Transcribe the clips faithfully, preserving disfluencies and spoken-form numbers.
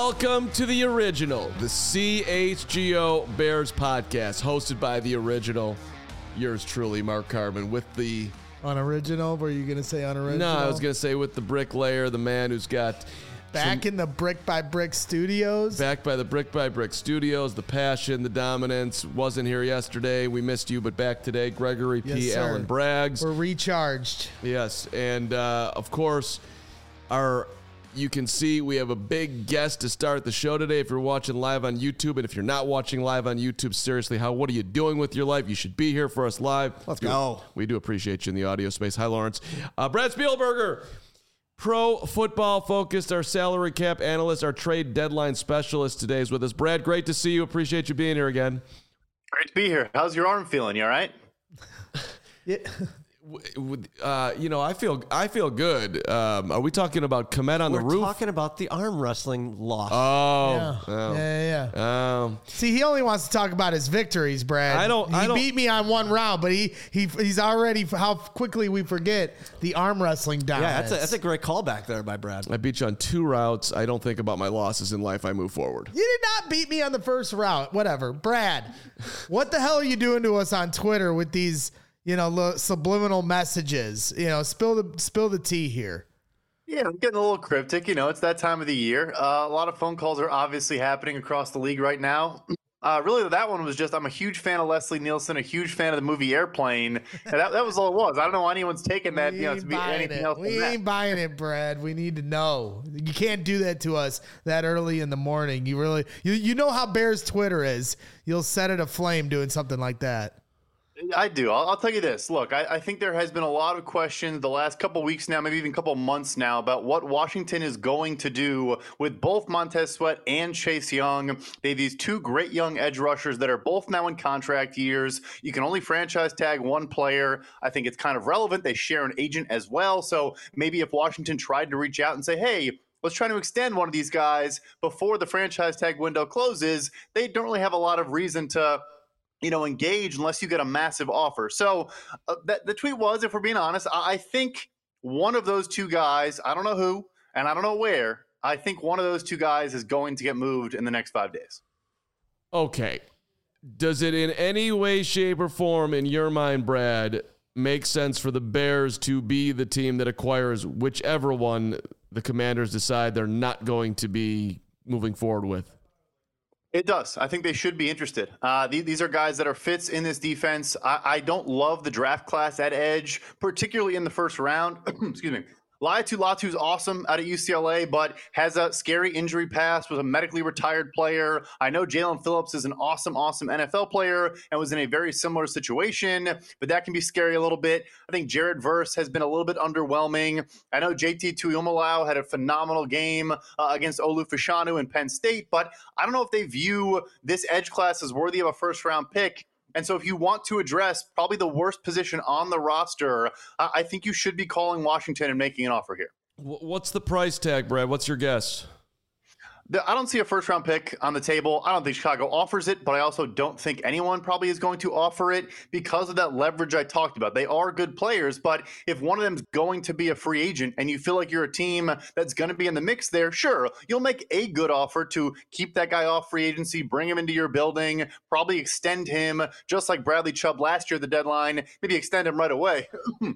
Welcome to the original, the C H G O Bears podcast, hosted by the original, yours truly, Mark Carbon, with the... Unoriginal? Were you going to say unoriginal? No, I was going to say with the bricklayer, the man who's got... Back some, in the Brick by Brick Studios? Back by the Brick by Brick Studios, the passion, the dominance. Wasn't here yesterday. We missed you, but back today. Gregory P. Yes, sir. Allen Braggs. We're recharged. Yes, and uh, of course, our... You can see we have a big guest to start the show today. If you're watching live on YouTube, and if you're not watching live on YouTube, seriously, how what are you doing with your life? You should be here for us live. Let's do, go. We do appreciate you in the audio space. Hi, Lawrence. Uh, Brad Spielberger, pro football focused, our salary cap analyst, our trade deadline specialist today is with us. Brad, great to see you. Appreciate you being here again. Great to be here. How's your arm feeling? You all right? Yeah. Uh, you know, I feel I feel good. Um, are we talking about Komet on We're the roof? We're talking about the arm wrestling loss. Oh, yeah. oh. yeah, yeah. Um, See, he only wants to talk about his victories, Brad. I don't. He I don't, beat me on one round, but he he he's already how quickly we forget the arm wrestling dominance. Yeah, that's a, that's a great callback there by Brad. I beat you on two routes. I don't think about my losses in life. I move forward. You did not beat me on the first route. Whatever, Brad. What the hell are you doing to us on Twitter with these? You know, lo- subliminal messages. You know, spill the spill the tea here. Yeah, I'm getting a little cryptic. You know, it's that time of the year. Uh, a lot of phone calls are obviously happening across the league right now. Uh, really, that one was just, I'm a huge fan of Leslie Nielsen, a huge fan of the movie Airplane. And that, that was all it was. I don't know why anyone's taken that, We you know, ain't to be buying anything it. else We than ain't that. buying it, Brad. We need to know. You can't do that to us that early in the morning. You really, you you know how Bears Twitter is. You'll set it aflame doing something like that. I do. I'll, I'll tell you this. Look, I, I think there has been a lot of questions the last couple of weeks now, maybe even a couple of months now, about what Washington is going to do with both Montez Sweat and Chase Young. They have these two great young edge rushers that are both now in contract years. You can only franchise tag one player. I think it's kind of relevant. They share an agent as well. So maybe if Washington tried to reach out and say, hey, let's try to extend one of these guys before the franchise tag window closes, they don't really have a lot of reason to you know, engage unless you get a massive offer. So uh, that, the tweet was, if we're being honest, I, I think one of those two guys, I don't know who, and I don't know where, I think one of those two guys is going to get moved in the next five days. Okay. Does it in any way, shape, or form, in your mind, Brad, make sense for the Bears to be the team that acquires whichever one the Commanders decide they're not going to be moving forward with? It does. I think they should be interested. Uh, these, these are guys that are fits in this defense. I, I don't love the draft class at edge, particularly in the first round. Excuse me. Laiatu Latu's awesome out of U C L A, but has a scary injury past, was a medically retired player. I know Jalen Phillips is an awesome, awesome N F L player and was in a very similar situation, but that can be scary a little bit. I think Jared Verse has been a little bit underwhelming. I know J T Tuimalau had a phenomenal game uh, against Olu Fashanu in Penn State, but I don't know if they view this edge class as worthy of a first-round pick. And so if you want to address probably the worst position on the roster, uh, I think you should be calling Washington and making an offer here. What's the price tag, Brad? What's your guess? The, I don't see a first-round pick on the table. I don't think Chicago offers it, but I also don't think anyone probably is going to offer it because of that leverage I talked about. They are good players, but if one of them's going to be a free agent and you feel like you're a team that's going to be in the mix there, sure, you'll make a good offer to keep that guy off free agency, bring him into your building, probably extend him, just like Bradley Chubb last year at the deadline, maybe extend him right away.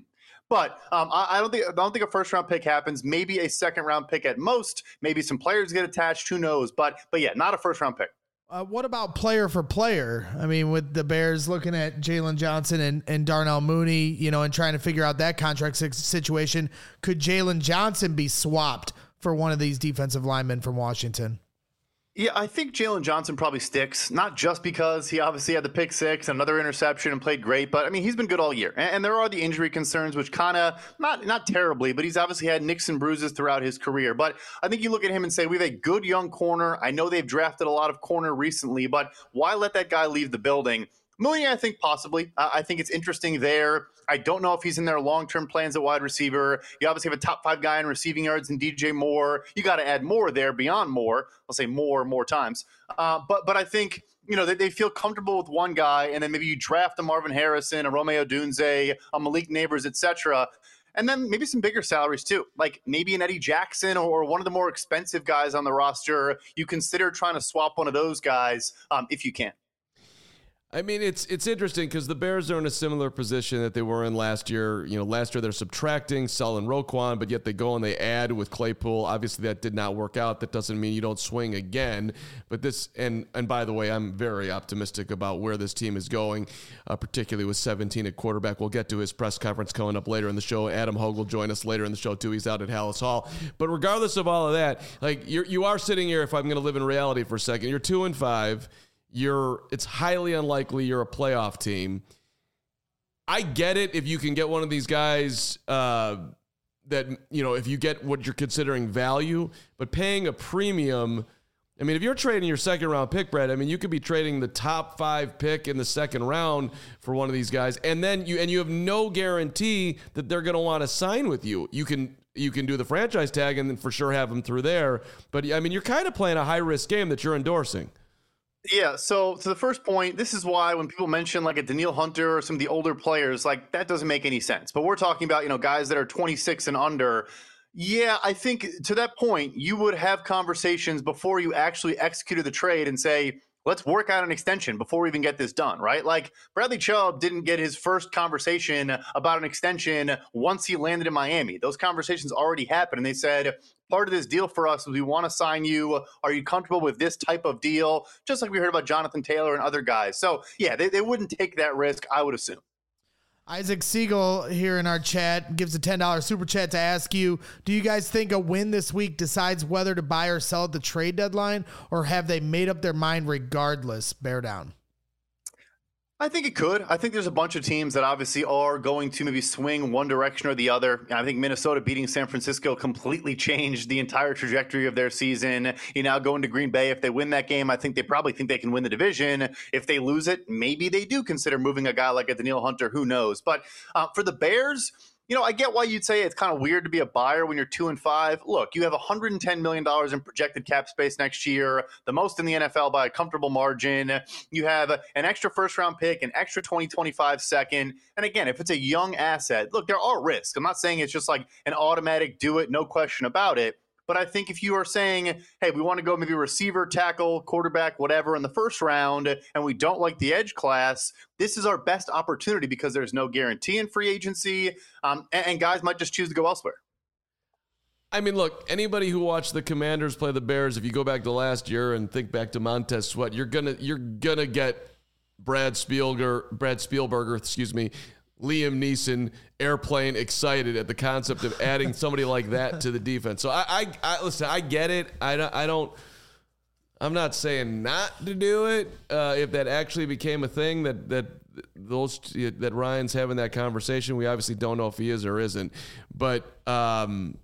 But um, I, I don't think I don't think a first round pick happens. Maybe a second round pick at most. Maybe some players get attached. Who knows? But but yeah, not a first round pick. Uh, what about player for player? I mean, with the Bears looking at Jalen Johnson and, and Darnell Mooney, you know, and trying to figure out that contract situation, could Jalen Johnson be swapped for one of these defensive linemen from Washington? Yeah, I think Jalen Johnson probably sticks, not just because he obviously had the pick six and another interception and played great, but I mean, he's been good all year. And, and there are the injury concerns, which kind of, not not terribly, but he's obviously had nicks and bruises throughout his career. But I think you look at him and say, we have a good young corner. I know they've drafted a lot of corner recently, but why let that guy leave the building? Mooney, I think possibly. Uh, I think it's interesting there. I don't know if he's in their long-term plans at wide receiver. You obviously have a top five guy in receiving yards in D J Moore. You got to add more there beyond Moore. I'll say more more times. Uh, but but I think, you know, they, they feel comfortable with one guy, and then maybe you draft a Marvin Harrison, a Romeo Dunze, a Malik Neighbors, et cetera. and then maybe some bigger salaries too, like maybe an Eddie Jackson or one of the more expensive guys on the roster. You consider trying to swap one of those guys um, if you can. I mean, it's it's interesting because the Bears are in a similar position that they were in last year. You know, last year they're subtracting, selling Roquan, but yet they go and they add with Claypool. Obviously, that did not work out. That doesn't mean you don't swing again. But this, and and by the way, I'm very optimistic about where this team is going, uh, particularly with seventeen at quarterback. We'll get to his press conference coming up later in the show. Adam Hogue will join us later in the show too. He's out at Hallis Hall. But regardless of all of that, like you're, you are sitting here. If I'm going to live in reality for a second, you're two and five. You're it's highly unlikely you're a playoff team. I get it if you can get one of these guys uh, that, you know, if you get what you're considering value, but paying a premium. I mean, if you're trading your second round pick, Brad, I mean, you could be trading the top five pick in the second round for one of these guys. And then you, and you have no guarantee that they're going to want to sign with you. You can, you can do the franchise tag and then for sure have them through there. But I mean, you're kind of playing a high risk game that you're endorsing. Yeah, so to the first point, this is why when people mention like a Danielle Hunter or some of the older players, like that doesn't make any sense. But we're talking about, you know, guys that are twenty-six and under. Yeah, I think to that point, you would have conversations before you actually executed the trade and say, let's work out an extension before we even get this done, right? Like Bradley Chubb didn't get his first conversation about an extension once he landed in Miami. Those conversations already happened, and they said, part of this deal for us is we want to sign you. Are you comfortable with this type of deal? Just like we heard about Jonathan Taylor and other guys. So, yeah, they, they wouldn't take that risk, I would assume. Isaac Siegel here in our chat gives a ten dollars super chat to ask you, do you guys think a win this week decides whether to buy or sell at the trade deadline, or have they made up their mind regardless? Bear down. I think it could. I think there's a bunch of teams that obviously are going to maybe swing one direction or the other. I think Minnesota beating San Francisco completely changed the entire trajectory of their season. You now go into Green Bay. If they win that game, I think they probably think they can win the division. If they lose it, maybe they do consider moving a guy like a Danielle Hunter. Who knows? But uh, for the Bears, you know, I get why you'd say it's kind of weird to be a buyer when you're two and five. Look, you have one hundred ten million dollars in projected cap space next year, the most in the N F L by a comfortable margin. You have an extra first round pick, an extra twenty twenty-five second. And again, if it's a young asset, look, there are risks. I'm not saying it's just like an automatic do it, no question about it. But I think if you are saying, hey, we want to go maybe receiver, tackle, quarterback, whatever in the first round, and we don't like the edge class, this is our best opportunity because there's no guarantee in free agency, um, and, and guys might just choose to go elsewhere. I mean, look, anybody who watched the Commanders play the Bears, if you go back to last year and think back to Montez Sweat, you're gonna you're gonna get Brad Spielberger, Brad Spielberger, excuse me, Liam Neeson airplane excited at the concept of adding somebody like that to the defense. So I, I, I listen, I get it. I don't, I don't, I'm not saying not to do it. Uh, if that actually became a thing that, that those, that Ryan's having that conversation, we obviously don't know if he is or isn't, but, um,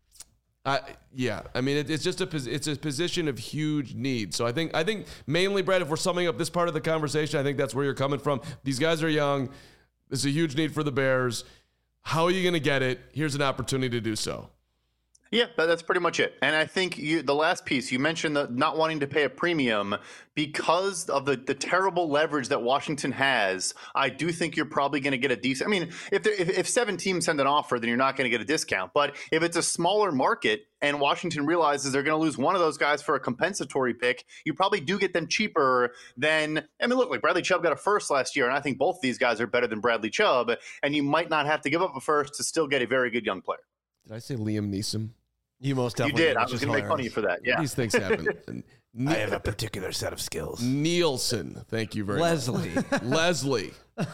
I, yeah, I mean, it, it's just a, it's a position of huge need. So I think, I think mainly, Brad, if we're summing up this part of the conversation, I think that's where you're coming from. These guys are young. This is a huge need for the Bears. How are you going to get it? Here's an opportunity to do so. Yeah, that's pretty much it. And I think you, the last piece, you mentioned the not wanting to pay a premium because of the, the terrible leverage that Washington has. I do think you're probably going to get a decent – I mean, if, there, if if seven teams send an offer, then you're not going to get a discount. But if it's a smaller market and Washington realizes they're going to lose one of those guys for a compensatory pick, you probably do get them cheaper than – I mean, look, like Bradley Chubb got a first last year, and I think both of these guys are better than Bradley Chubb, and you might not have to give up a first to still get a very good young player. Did I say Liam Neeson? You most definitely You did. did, I was going to make fun of you for that. Yeah. These things happen. Ne- I have a particular set of skills. Nielsen. Thank you very Leslie. much. Leslie.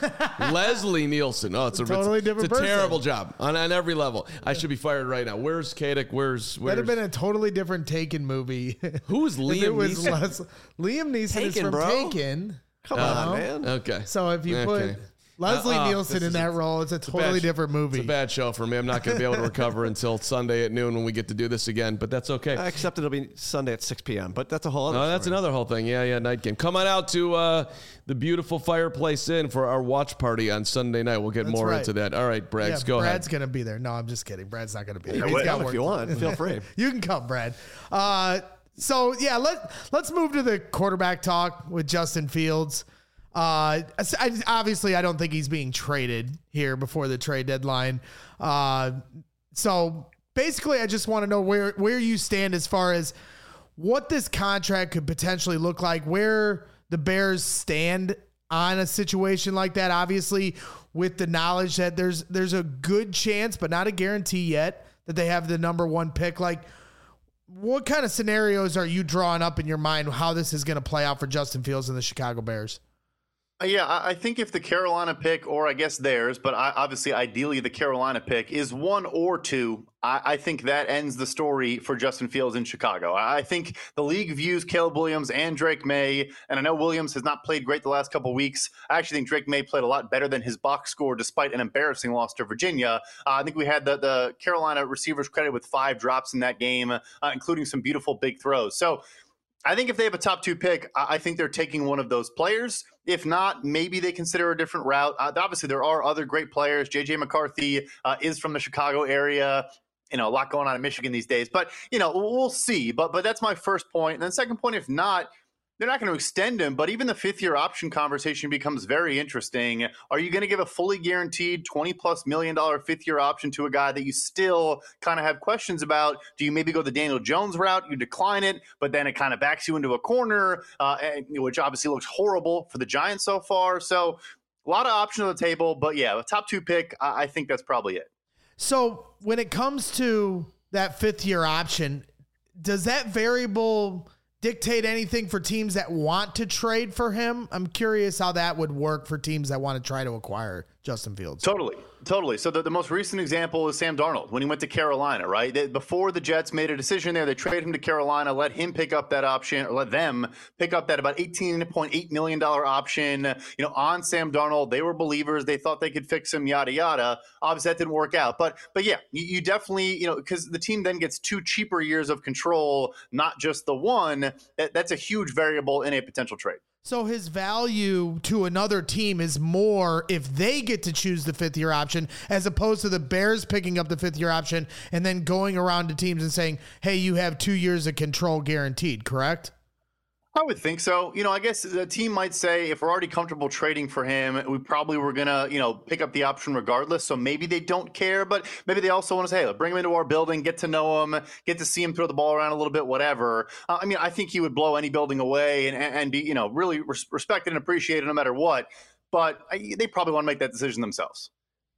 Leslie Nielsen. Oh, it's a Totally it's, different It's a person. terrible job on, on every level. I should be fired right now. Where's Kadek? Where's where's That'd have been a totally different Taken movie. Who's If Liam it was Neeson? Les- Liam Neeson is Taken, from bro. Taken. Come You on, know? man. Okay. So if you Okay. put Leslie Uh, uh, Nielsen this in is that a- role, it's a a totally bad- different movie. It's a bad show for me. I'm not going to be able to recover until Sunday at noon when we get to do this again, but that's okay. Uh, Except it'll be Sunday at six p.m., but that's a whole other No, that's story. another whole thing. Yeah, yeah, night game. Come on out to uh, the beautiful Fireplace Inn for our watch party on Sunday night. We'll get That's more right. into that. All right, Braggs, yeah, go Brad's ahead. gonna be there. No, I'm just kidding. Brad's not gonna be there. Yeah, He's well, got Come work if you to want. do. Feel free. You can come, Brad. Uh, so yeah, let let's move to the quarterback talk with Justin Fields. Uh, I, obviously, I don't think he's being traded here before the trade deadline. Uh, so basically, I just want to know where, where you stand as far as what this contract could potentially look like, where the Bears stand on a situation like that. Obviously, with the knowledge that there's there's a good chance, but not a guarantee yet, that they have the number one pick. Like, what kind of scenarios are you drawing up in your mind how this is going to play out for Justin Fields and the Chicago Bears? Yeah, I think if the Carolina pick, or I guess theirs, but I, obviously ideally the Carolina pick is one or two, I, I think that ends the story for Justin Fields in Chicago. I think the league views Caleb Williams and Drake May, and I know Williams has not played great the last couple of weeks. I actually think Drake May played a lot better than his box score despite an embarrassing loss to Virginia. Uh, I think we had the, the Carolina receivers credited with five drops in that game, uh, including some beautiful big throws. So I think if they have a top two pick, I think they're taking one of those players. If not, maybe they consider a different route. Uh, obviously, there are other great players. J J McCarthy uh, is from the Chicago area. You know, a lot going on in Michigan these days. But, you know, we'll see. But but that's my first point. And then second point, if not, they're not going to extend him, but even the fifth-year option conversation becomes very interesting. Are you going to give a fully guaranteed twenty-plus million dollar fifth-year option to a guy that you still kind of have questions about? Do you maybe go the Daniel Jones route? You decline it, but then it kind of backs you into a corner, uh, which obviously looks horrible for the Giants so far. So a lot of options on the table, but yeah, the top two pick, I, I think that's probably it. So when it comes to that fifth-year option, does that variable dictate anything for teams that want to trade for him? I'm curious how that would work for teams that want to try to acquire Justin Fields. Totally. Totally. So the, the most recent example is Sam Darnold when he went to Carolina, right? They, before the Jets made a decision there, they traded him to Carolina, let him pick up that option, or let them pick up that about eighteen point eight million dollars option, you know, on Sam Darnold. They were believers. They thought they could fix him, yada, yada. Obviously, that didn't work out. But, but yeah, you, you definitely, you know, because the team then gets two cheaper years of control, not just the one. That, that's a huge variable in a potential trade. So his value to another team is more if they get to choose the fifth year option, as opposed to the Bears picking up the fifth year option and then going around to teams and saying, hey, you have two years of control guaranteed, correct? I would think so. You know, I guess the team might say if we're already comfortable trading for him, we probably were going to, you know, pick up the option regardless. So maybe they don't care, but maybe they also want to say, hey, bring him into our building, get to know him, get to see him throw the ball around a little bit, whatever. Uh, I mean, I think he would blow any building away and, and be, you know, really res- respected and appreciated no matter what. But I, they probably want to make that decision themselves.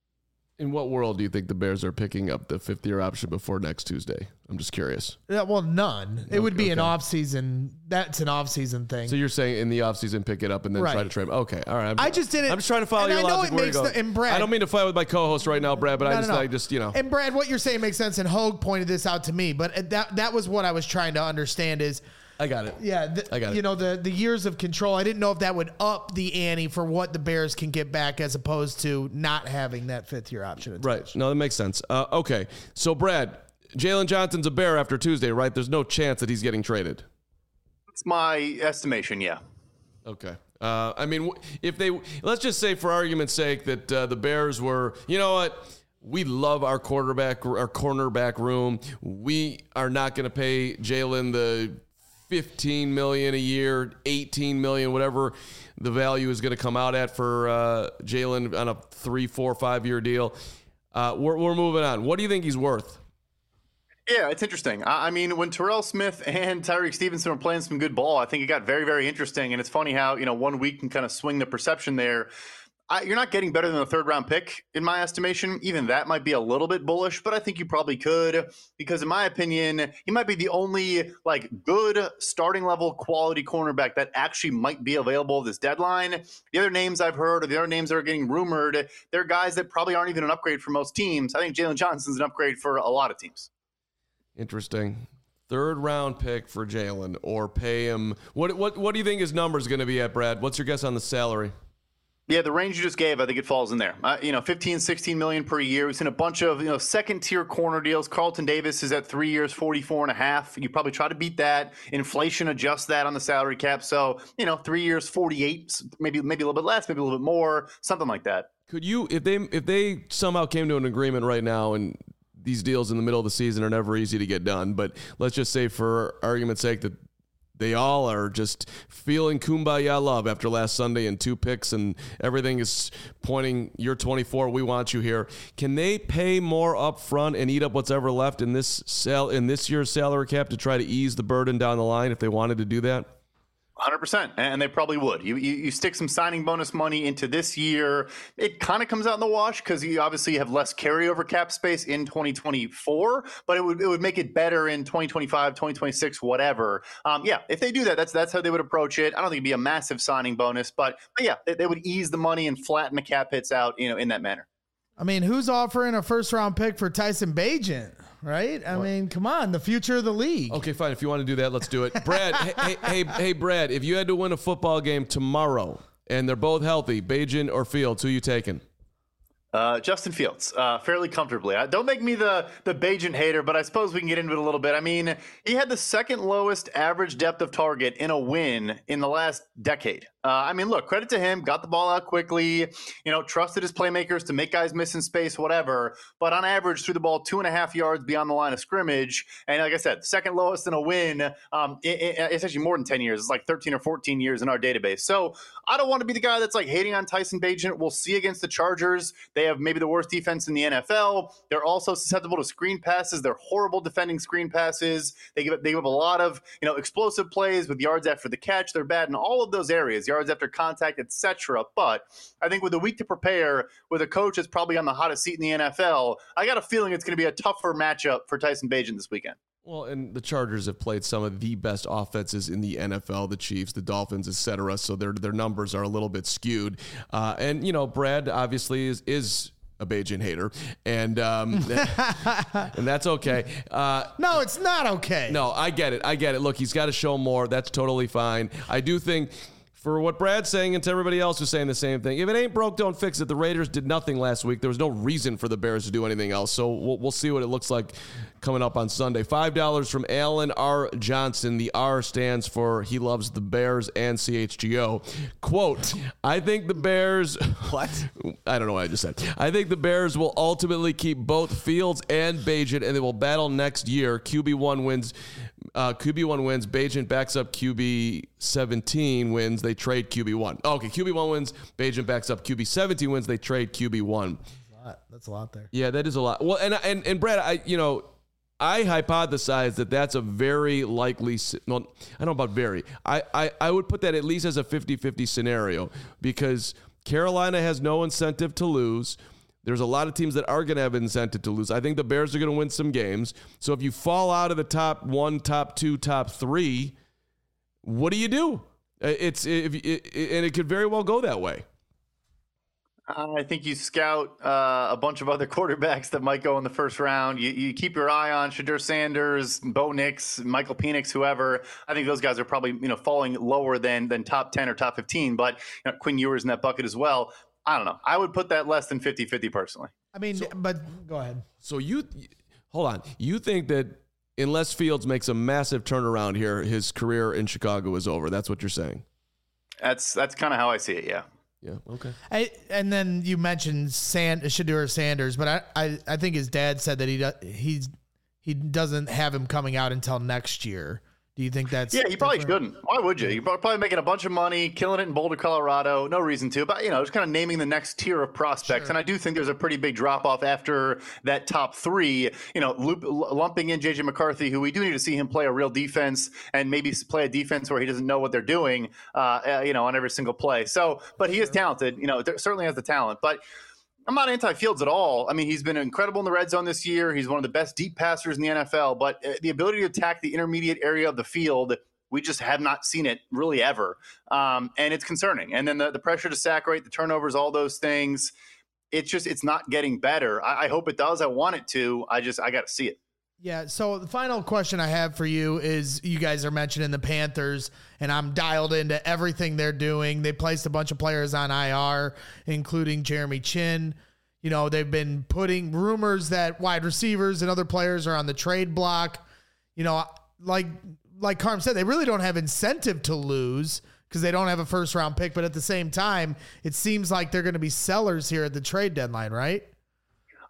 In what world do you think the Bears are picking up the fifth year option before next Tuesday? I'm just curious. Yeah, well, none. It Okay, would be okay. an off-season. That's an off-season thing. So you're saying in the offseason pick it up and then Right. try to trade him. Okay, all right. I'm, I just didn't. I'm just trying to follow and your I know logic. it Where makes you go. the, and Brad, I don't mean to fight with my co-host right now, Brad, but No, I just, no, no. I just, you know. And Brad, what you're saying makes sense, and Hogue pointed this out to me, but that that was what I was trying to understand is, I got it. yeah, the, I got it. you know, the the years of control. I didn't know if that would up the ante for what the Bears can get back as opposed to not having that fifth year option attached. Right. No, that makes sense. Uh, okay. So, Brad, Jalen Johnson's a Bear after Tuesday, right? There's no chance that he's getting traded. That's my estimation, yeah. Okay. Uh, I mean, if they, let's just say for argument's sake that uh, the Bears were, you know what? We love our quarterback, our cornerback room. We are not going to pay Jalen the fifteen million dollars a year, eighteen million dollars, whatever the value is going to come out at for uh, Jalen on a three, four, five year deal. Uh, we're, we're moving on. What do you think he's worth? Yeah, it's interesting. I I mean, when Terrell Smith and Tyreek Stevenson were playing some good ball, I think it got very, very interesting. And it's funny how, you know, one week can kind of swing the perception there. I, you're not getting better than a third round pick, in my estimation. Even that might be a little bit bullish, but I think you probably could, because in my opinion, he might be the only like good starting level quality cornerback that actually might be available this deadline. The other names I've heard, or the other names that are getting rumored, they're guys that probably aren't even an upgrade for most teams. I think Jalen Johnson's an upgrade for a lot of teams. Interesting. Third round pick for Jalen, or pay him. What what what do you think his number is going to be at, Brad? What's your guess on the salary? Yeah, the range you just gave, I think it falls in there. Uh, you know, fifteen, sixteen million per year. We've seen a bunch of, you know, second tier corner deals. Carlton Davis is at three years, forty-four and a half. You probably try to beat that. Inflation adjusts that on the salary cap. So, you know, three years, forty-eight, maybe, maybe a little bit less, maybe a little bit more, something like that. Could you, if they if they somehow came to an agreement right now, and these deals in the middle of the season are never easy to get done, but let's just say for argument's sake that they all are just feeling kumbaya love after last Sunday and two picks, and everything is pointing, you're twenty-four, we want you here. Can they pay more up front and eat up what's ever left in this sal- in this year's salary cap to try to ease the burden down the line if they wanted to do that? one hundred percent, and they probably would. You, you you stick some signing bonus money into this year, it kind of comes out in the wash because you obviously have less carryover cap space in twenty twenty-four, but it would it would make it better in twenty twenty-five, twenty twenty-six, whatever. Um, yeah, if they do that, that's that's how they would approach it. I don't think it'd be a massive signing bonus, but, but yeah, they, they would ease the money and flatten the cap hits out, you know, in that manner. I mean, who's offering a first round pick for Tyson Bagent? Right? I what? mean, come on, the future of the league. Okay, fine. If you want to do that, let's do it. Brad, hey, hey, hey, Brad, if you had to win a football game tomorrow and they're both healthy, Bagent or Fields, who you taking? Uh, Justin Fields, uh, fairly comfortably. Uh, don't make me the the Bagent hater, but I suppose we can get into it a little bit. I mean, he had the second lowest average depth of target in a win in the last decade. Uh, I mean, look, credit to him, got the ball out quickly, you know, trusted his playmakers to make guys miss in space, whatever. But on average, threw the ball two and a half yards beyond the line of scrimmage. And like I said, second lowest in a win. Um, it, it, it's actually more than ten years. It's like thirteen or fourteen years in our database. So I don't want to be the guy that's like hating on Tyson Bagent. We'll see against the Chargers. They have maybe the worst defense in the N F L. They're also susceptible to screen passes. They're horrible defending screen passes. They give, they give up a lot of, you know, explosive plays with yards after the catch. They're bad in all of those areas, yards after contact, et cetera. But I think with a week to prepare, with a coach that's probably on the hottest seat in the N F L, I got a feeling it's going to be a tougher matchup for Tyson Bagent this weekend. Well, and the Chargers have played some of the best offenses in the N F L, the Chiefs, the Dolphins, et cetera. So their their numbers are a little bit skewed. Uh, and, you know, Brad obviously is is a Bagent hater, and um, and that's okay. Uh, no, it's not okay. No, I get it. I get it. Look, he's got to show more. That's totally fine. I do think, for what Brad's saying and to everybody else who's saying the same thing, if it ain't broke, don't fix it. The Raiders did nothing last week. There was no reason for the Bears to do anything else. So we'll, we'll see what it looks like coming up on Sunday. five dollars from Alan R. Johnson. The R stands for he loves the Bears and C H G O. Quote, I think the Bears... What? I don't know what I just said. I think the Bears will ultimately keep both Fields and Bagent, and they will battle next year. Q B one wins... Uh, Q B one wins. Bagent backs up Q B seventeen wins. They trade Q B one. Oh, okay, Q B one wins. Bagent backs up Q B seventeen wins. They trade Q B one. That's a lot, That's a lot there. Yeah, that is a lot. Well, and and and Brad, I you know, I hypothesize that that's a very likely. Well, I don't know about very. I I, I would put that at least as a fifty-fifty scenario because Carolina has no incentive to lose. There's a lot of teams that are going to have incentive to lose. I think the Bears are going to win some games. So if you fall out of the top one, top two, top three, what do you do? It's if it, and it could very well go that way. I think you scout uh, a bunch of other quarterbacks that might go in the first round. You, you keep your eye on Shedeur Sanders, Bo Nix, Michael Penix, whoever. I think those guys are probably you know falling lower than than top ten or top fifteen. But you know, Quinn Ewers in that bucket as well. I don't know. I would put that less than fifty-fifty personally. I mean, so, but go ahead. So you, hold on. You think that unless Fields makes a massive turnaround here, his career in Chicago is over. That's what you're saying. That's that's kind of how I see it, yeah. Yeah, okay. I, and then you mentioned Sand, Shedeur Sanders, but I, I, I think his dad said that he does, he's, he doesn't have him coming out until next year. Do you think that's... Yeah, you probably different? shouldn't. Why would you? You're probably making a bunch of money, killing it in Boulder, Colorado. No reason to. But, you know, just kind of naming the next tier of prospects. Sure. And I do think there's a pretty big drop-off after that top three, you know, loop, lumping in J J McCarthy, who we do need to see him play a real defense and maybe play a defense where he doesn't know what they're doing, uh, you know, on every single play. So, but he is talented. You know, certainly has the talent. But... I'm not anti-Fields at all. I mean, he's been incredible in the red zone this year. He's one of the best deep passers in the N F L. But the ability to attack the intermediate area of the field, we just have not seen it really ever. Um, and it's concerning. And then the, the pressure to sack rate, the turnovers, all those things, it's just it's not getting better. I, I hope it does. I want it to. I just I got to see it. Yeah, so the final question I have for you is you guys are mentioning the Panthers, and I'm dialed into everything they're doing. They placed a bunch of players on I R, including Jeremy Chin. You know, they've been putting rumors that wide receivers and other players are on the trade block. You know, like like Carm said, they really don't have incentive to lose because they don't have a first-round pick. But at the same time, it seems like they're going to be sellers here at the trade deadline, right?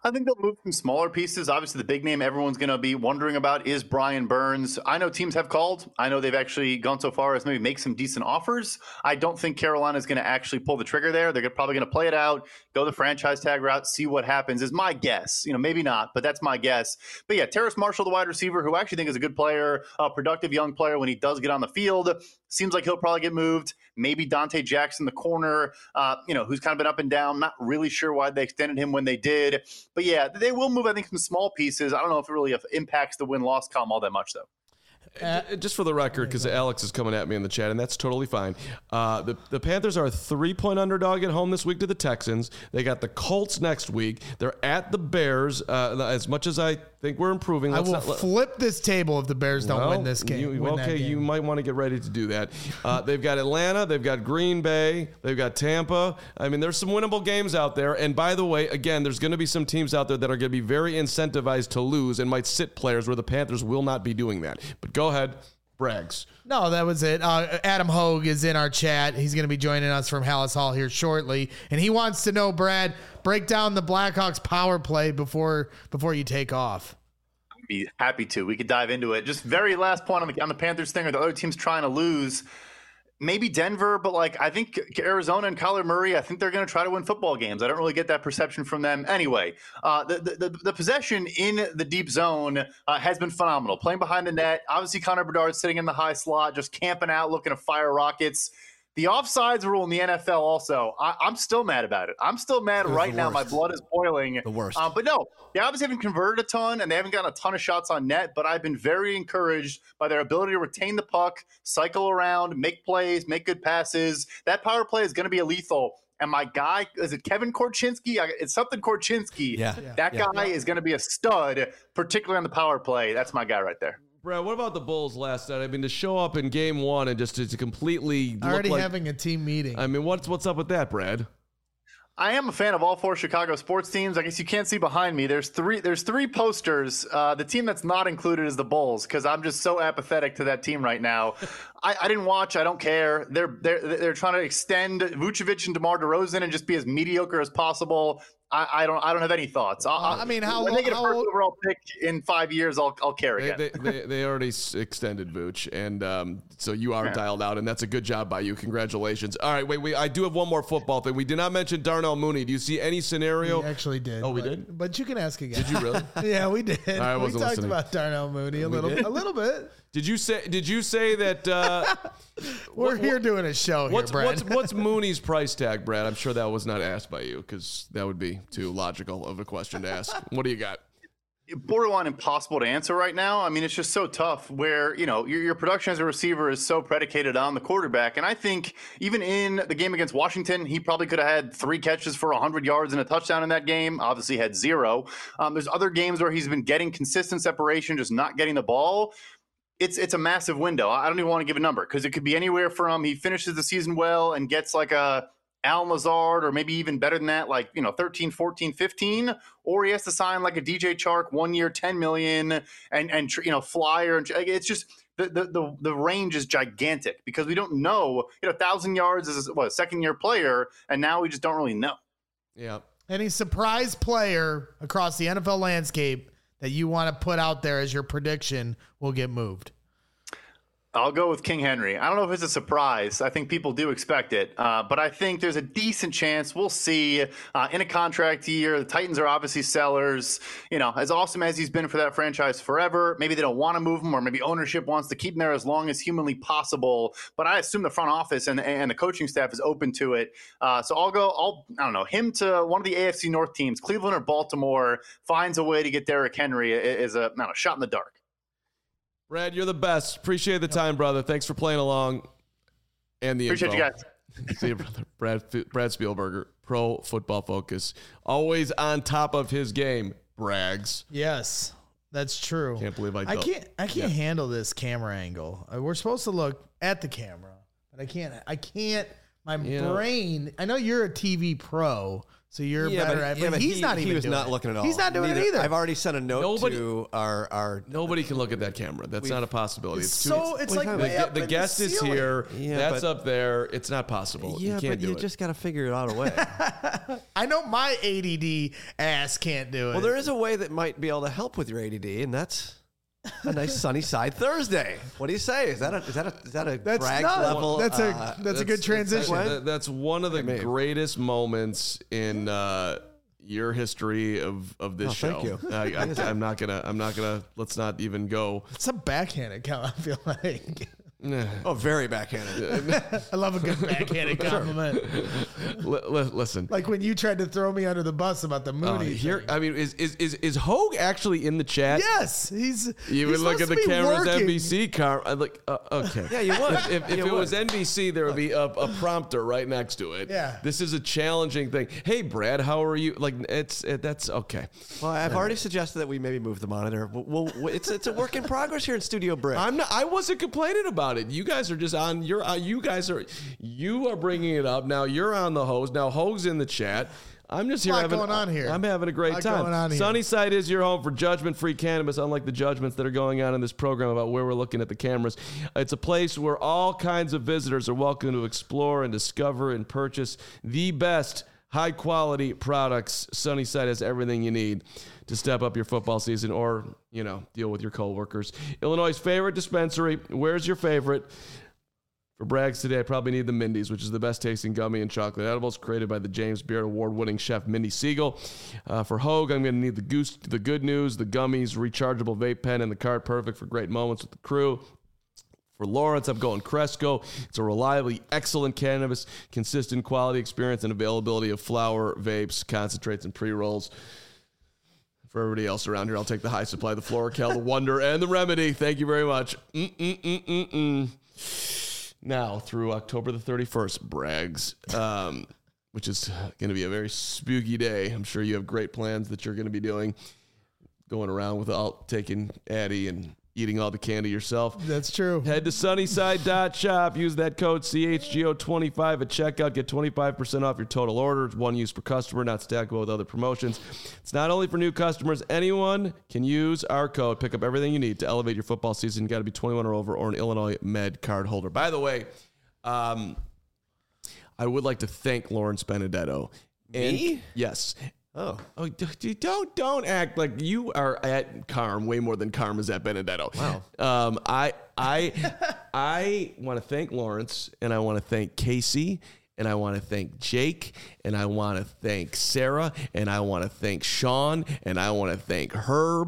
I think they'll move some smaller pieces. Obviously, the big name everyone's going to be wondering about is Brian Burns. I know teams have called. I know they've actually gone so far as maybe make some decent offers. I don't think Carolina is going to actually pull the trigger there. They're probably going to play it out, go the franchise tag route, see what happens is my guess. You know, maybe not, but that's my guess. But yeah, Terrace Marshall, the wide receiver, who I actually think is a good player, a productive young player when he does get on the field, seems like he'll probably get moved. Maybe Dante Jackson, the corner, uh, you know, who's kind of been up and down. Not really sure why they extended him when they did. But yeah, they will move, I think, some small pieces. I don't know if it really impacts the win-loss column all that much, though. Uh, just for the record, because Alex is coming at me in the chat, and that's totally fine. Uh, the, the Panthers are a three-point underdog at home this week to the Texans. They got the Colts next week. They're at the Bears. Uh, as much as I think we're improving, I let's will not, let, flip this table if the Bears don't well, win this game. You, win okay, game. you might want to get ready to do that. Uh, they've got Atlanta. They've got Green Bay. They've got Tampa. I mean, there's some winnable games out there. And by the way, again, there's going to be some teams out there that are going to be very incentivized to lose and might sit players where the Panthers will not be doing that. But go ahead. Brags. No, that was it. Uh, Adam Hogue is in our chat. He's going to be joining us from Hallis Hall here shortly, and he wants to know, Brad, break down the Blackhawks power play before before you take off. I'd be happy to. We could dive into it. Just very last point on the on the Panthers thing, or the other teams trying to lose. Maybe Denver, but like I think Arizona and Kyler Murray, I think they're going to try to win football games. I don't really get that perception from them. Anyway, uh, the, the the possession in the deep zone uh, has been phenomenal. Playing behind the net, obviously Connor Bedard sitting in the high slot, just camping out, looking to fire rockets. The offsides rule in the N F L also, I, I'm still mad about it. I'm still mad right now. My blood is boiling. The worst. Uh, but no, they obviously haven't converted a ton, and they haven't gotten a ton of shots on net, but I've been very encouraged by their ability to retain the puck, cycle around, make plays, make good passes. That power play is going to be a lethal. And my guy, is it Kevin Korchinski? It's something Korchinski. Yeah. That Yeah. guy is going to be a stud, particularly on the power play. That's my guy right there. Brad, what about the Bulls last night? I mean, to show up in game one and just to, to completely look Already like, having a team meeting. I mean, what's what's up with that, Brad? I am a fan of all four Chicago sports teams. I guess you can't see behind me. There's three. There's three posters. Uh, the team that's not included is the Bulls because I'm just so apathetic to that team right now. I, I didn't watch. I don't care. They're they're they're trying to extend Vucevic and DeMar DeRozan and just be as mediocre as possible. I, I don't. I don't have any thoughts. I'll, Uh, I mean, how when they get a how first old- overall pick in five years, I'll I'll care They, again. they, they, they already s- extended Vooch, and um, so you are Yeah. dialed out, and that's a good job by you. Congratulations. All right, wait, wait. I do have one more football thing. We did not mention Darnell Mooney. Do you see any scenario? We actually did. Oh, we but- did? But you can ask again. Did you really? Yeah, we did. I we wasn't talked listening. about Darnell Mooney a We little, did? a little bit. Did you say? Did you say that? Uh, We're what- here doing a show What's here, Brad. what's what's Mooney's price tag, Brad? I'm sure that was not asked by you because that would be too logical of a question to ask. What do you got? Borderline impossible to answer right now. I mean, it's just so tough where, you know, your, your production as a receiver is so predicated on the quarterback. And I think even in the game against Washington, he probably could have had three catches for one hundred yards and a touchdown in that game. Obviously had zero. Um, there's other games where he's been getting consistent separation, just not getting the ball. It's it's a massive window. I don't even want to give a number because it could be anywhere from he finishes the season well and gets like a Alan Lazard, or maybe even better than that, like, you know, thirteen, fourteen, fifteen, or he has to sign like a D J Chark one year, ten million and, and, you know, flyer. And it's just the, the, the, the range is gigantic because we don't know, you know, a thousand yards is what, a second year player. And now we just don't really know. Yeah. Any surprise player across the N F L landscape that you want to put out there as your prediction will get moved? I'll go with King Henry. I don't know if it's a surprise. I think people do expect it. Uh, but I think there's a decent chance. We'll see. Uh, in a contract year, the Titans are obviously sellers. You know, as awesome as he's been for that franchise forever, maybe they don't want to move him, or maybe ownership wants to keep him there as long as humanly possible. But I assume the front office and, and the coaching staff is open to it. Uh, so I'll go, I'll, I don't know, him to one of the A F C North teams, Cleveland or Baltimore, finds a way to get Derrick Henry is a, I don't know, shot in the dark. Brad, you're the best. Appreciate the time, brother. Thanks for playing along. And the Appreciate info. you guys. See you, brother. Brad, Brad Spielberger, Pro Football Focus. Always on top of his game. Brags. Yes, that's true. Can't believe I I don't. can't. I can't handle this camera angle. Uh, We're supposed to look at the camera, but I can't. I can't. My You know- brain. I know you're a T V pro, So you're Yeah, better but, at it. yeah, But but he's he, not even He was doing not it. looking at all. He's not doing Neither- it either. I've already sent a note Nobody- to our our. Nobody can look at that camera. That's not a possibility. It's too- so it's like the, way up the in guest the is ceiling. here. Yeah, That's but- up there. It's not possible. Yeah, you can't but do you it. just got to figure it out a way. I know my A D D ass can't do it. Well, there is a way that might be able to help with your A D D, and that's a nice sunny side Thursday. What do you say? Is that a is that a is that a That's brag not- level? that's a- uh, that's a good transition. That's, that- that's one of the Maybe. greatest moments in uh, your history of, of this Oh, show. thank you. I, I, I'm not gonna. I'm not gonna. Let's not even go. It's a backhanded comment, I feel like. oh, very backhanded. I love a good backhanded compliment. Li- li- listen. Like when you tried to throw me under the bus about the Uh, Mooney. here, thing. I mean, is is is is Hogue actually in the chat? Yes, he's. You he's would look supposed at the to be cameras, working. N B C car. I'm like, uh, okay. Yeah, you would. If, if, if You it would. was N B C, there would be a, a prompter right next to it. Yeah. This is a challenging thing. Hey, Brad, how are you? Like, it's it, that's okay. Well, I've already suggested that we maybe move the monitor. We'll, we'll, it's it's a work in progress here in Studio Brick. I'm not. I wasn't complaining about it. You guys are just on. You're. Uh, you guys are. You are bringing it up now. You're on the hose now. Hogue's in the chat. I'm just here Lot having. going on here. I'm having a great Lot time. going on here. Sunnyside is your home for judgment-free cannabis. Unlike the judgments that are going on in this program about where we're looking at the cameras, it's a place where all kinds of visitors are welcome to explore and discover and purchase the best high-quality products. Sunnyside has everything you need to step up your football season or, you know, deal with your coworkers. Illinois' favorite dispensary. Where's your favorite? For Brags today, I probably need the Mindy's, which is the best tasting gummy and chocolate edibles created by the James Beard award-winning chef Mindy Siegel. Uh, for Hogue, I'm going to need the Goose, the Good News, the gummies, rechargeable vape pen, and the cart. Perfect for great moments with the crew. For Lawrence, I'm going Cresco. It's a reliably excellent cannabis, consistent quality experience, and availability of flower, vapes, concentrates, and pre-rolls. For everybody else around here, I'll take the High Supply, the Florical, the Wonder, and the Remedy. Thank you very much. Mm-mm-mm-mm-mm. Now, through October the thirty-first, Brags, um, which is going to be a very spooky day. I'm sure you have great plans that you're going to be doing, going around without taking Addy and eating all the candy yourself. That's true. Head to sunnyside dot shop. Use that code C H G O twenty-five at checkout. Get twenty-five percent off your total order. It's one use per customer, not stackable with other promotions. It's not only for new customers. Anyone can use our code. Pick up everything you need to elevate your football season. You got to be twenty-one or over or an Illinois Med card holder. By the way, um, I would like to thank Lawrence Benedetto. And, Me? yes. oh, Oh, d- d- don't don't act like you are at Carm way more than Carm is at Benedetto. Wow. Um, I I I want to thank Lawrence, and I want to thank Casey, and I want to thank Jake, and I want to thank Sarah, and I want to thank Sean, and I want to thank Herb.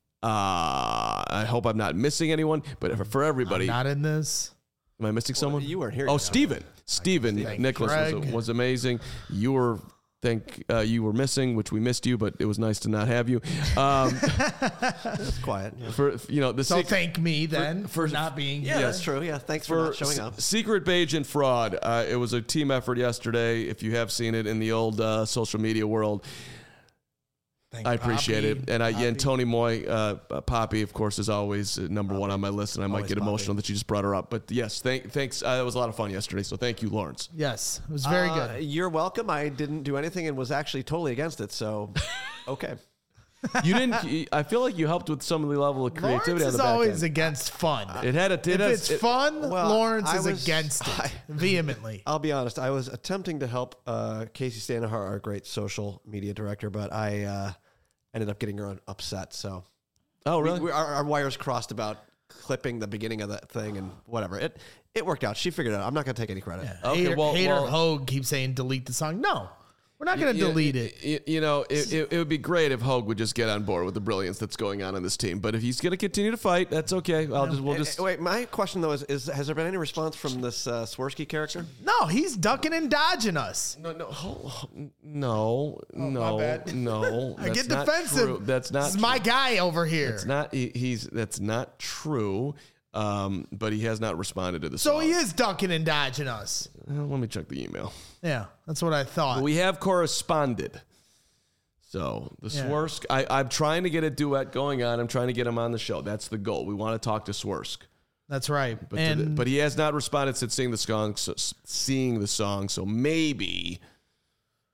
Uh, I hope I'm not missing anyone, but for, for everybody, Not in this. am I missing someone? you weren't here. Oh, yet. Steven. Steven Nicholas was, Craig. was amazing. You were think uh, you were missing, which we missed you, but it was nice to not have you. Um, It's quiet. Yeah. for you know the So sec- thank me then for, for- not being Yeah, here. that's true. Yeah, thanks for, for not showing up. S- Secret Beige and Fraud. Uh, it was a team effort yesterday. If you have seen it in the old uh, social media world, Thank I appreciate Poppy. it. And I, yeah, and Poppy. Tony Moy, uh, uh, Poppy, of course, is always uh, number one on my list, and I might Always get Poppy. emotional that you just brought her up. But yes, thank, thanks. Uh, it was a lot of fun yesterday, so thank you, Lawrence. Yes, it was very Uh, good. You're welcome. I didn't do anything and was actually totally against it. So, okay. You didn't. I feel like you helped with some of the level of creativity Lawrence on is the back always end. against fun. It had a. It if has- it's it- fun, Well, Lawrence I is was- against it I- vehemently. I'll be honest. I was attempting to help uh, Casey Stanaher, our great social media director, but I uh, ended up getting her upset. So, Oh, we- really? we, our, our wires crossed about clipping the beginning of that thing and whatever. It it worked out. She figured it out. I'm not going to take any credit. Okay, Hater, well- Hater well- Hogue keeps saying delete the song. No, we're not going to You- delete you, it. You, you know, it, it, it would be great if Hogue would just get on board with the brilliance that's going on in this team. But if he's going to continue to fight, that's okay. I'll just we'll Eh, just. eh, Wait, my question though is, is has there been any response from this uh, Swirsky character? No, he's ducking and dodging us. No, no, ho- ho- no, no, bad. no. I that's get not defensive. true. That's not. This is my true. guy over here. It's not. He, he's. That's not true. Um, but he has not responded to the so song. he is ducking and dodging us. Well, let me check the email. Yeah, that's what I thought. But we have corresponded. So the Yeah. Swersk, I, I'm trying to get a duet going on. I'm trying to get him on the show. That's the goal. We want to talk to Swersk. that's right. But, to and the, but he has not responded since seeing the song. So, seeing the song, so maybe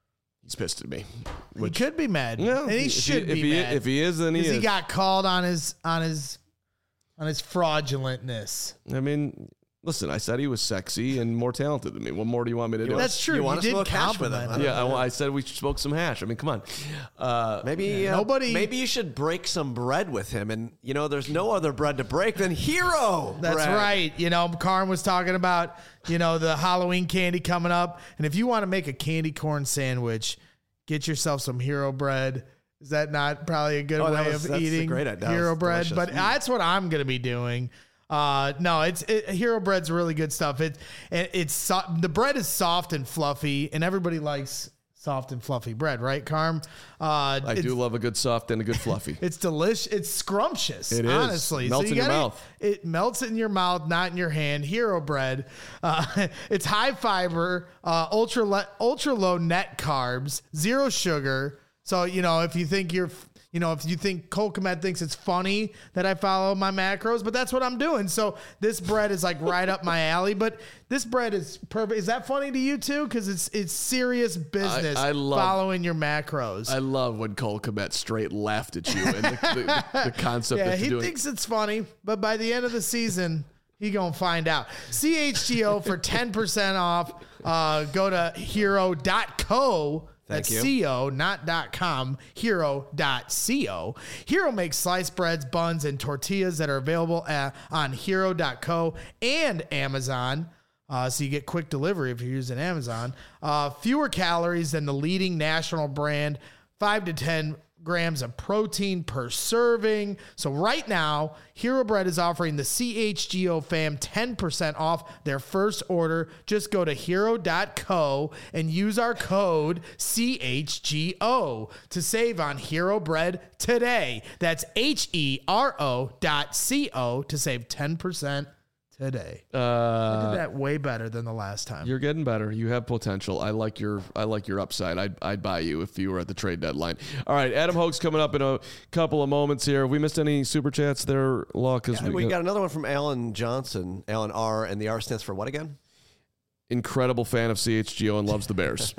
he's pissed at me. He could be mad. Yeah, and he if should he, be if he, mad. If he is, then he Because is. he got called on his on his on his fraudulentness. I mean, listen, I said he was sexy and more talented than me. What more do you want me to do? That's true. You You, wanna did smoke hash with him, compliment huh? him. yeah, I, I said we smoked some hash. I mean, come on. Uh, Maybe uh, nobody- Maybe you should break some bread with him, and you know, there's no other bread to break than Hero. That's bread. right. You know, Karn was talking about, you know, the Halloween candy coming up. And if you want to make a candy corn sandwich, get yourself some Hero bread. Is that not probably a good Oh, that way was- of that's a eating great idea. That Hero was bread? delicious. But Mm. that's what I'm going to be doing. Uh, no, it's it, Hero bread's really good stuff. It, it it's so, the bread is soft and fluffy, and everybody likes soft and fluffy bread, right, Carm? Uh, I do love a good soft and a good fluffy. It's delicious. It's scrumptious. It is. Honestly, Melts you in your gotta- mouth. It melts in your mouth, not in your hand. Hero bread. Uh, it's high fiber, uh, ultra le- ultra low net carbs, zero sugar. So you know if you think you're, you know if you think Cole Kmet thinks it's funny that I follow my macros, but that's what I'm doing. So this bread is like right up my alley. But this bread is perfect. Is that funny to you too? Because it's it's serious business. I love- following your macros. I love when Cole Kmet straight laughed at you and the, the, the concept Yeah, that he you're doing. thinks it's funny, but by the end of the season, he gonna find out. C H G O for ten percent off. Uh, go to hero dot co. Thank That's you. co, not .com, hero dot co. Hero makes sliced breads, buns, and tortillas that are available at, on hero dot co and Amazon. Uh, so you get quick delivery if you're using Amazon. Uh, fewer calories than the leading national brand, five to ten grams of protein per serving. So right now, Hero Bread is offering the C H G O fam ten percent off their first order. Just go to hero dot co and use our code C H G O to save on Hero Bread today. That's H E R O dot C O to save ten percent today. I uh, did that way better than the last time. You're getting better. You have potential. I like your I like your upside. I'd, I'd buy you if you were at the trade deadline. All right, Adam Hoke's coming up in a couple of moments here. Have we missed any super chats there, Law? Because Yeah, we got another one from Alan Johnson. Alan R, and the R stands for what again? incredible fan of C H G O and loves the Bears.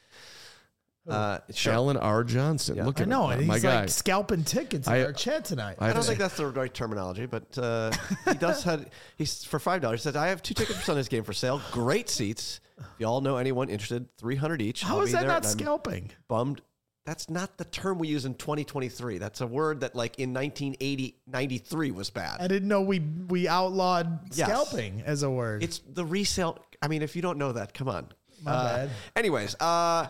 Uh, sure. Alan R. Johnson. Yeah. Look I at know, him. and My he's guy. like scalping tickets in I- our chat tonight. I I don't think that's the right terminology, but uh, he does have he's for five dollars. He says I have two tickets for Sunday's game for sale. Great seats. If you all know anyone interested, three hundred each. How I'll is be that there, not and I'm scalping? Bummed. That's not the term we use in twenty twenty-three. That's a word that like in nineteen eighty, ninety-three was bad. I didn't know we we outlawed Yes. scalping as a word. It's the resale. I mean, if you don't know that, come on. My Uh, bad. Anyways, uh,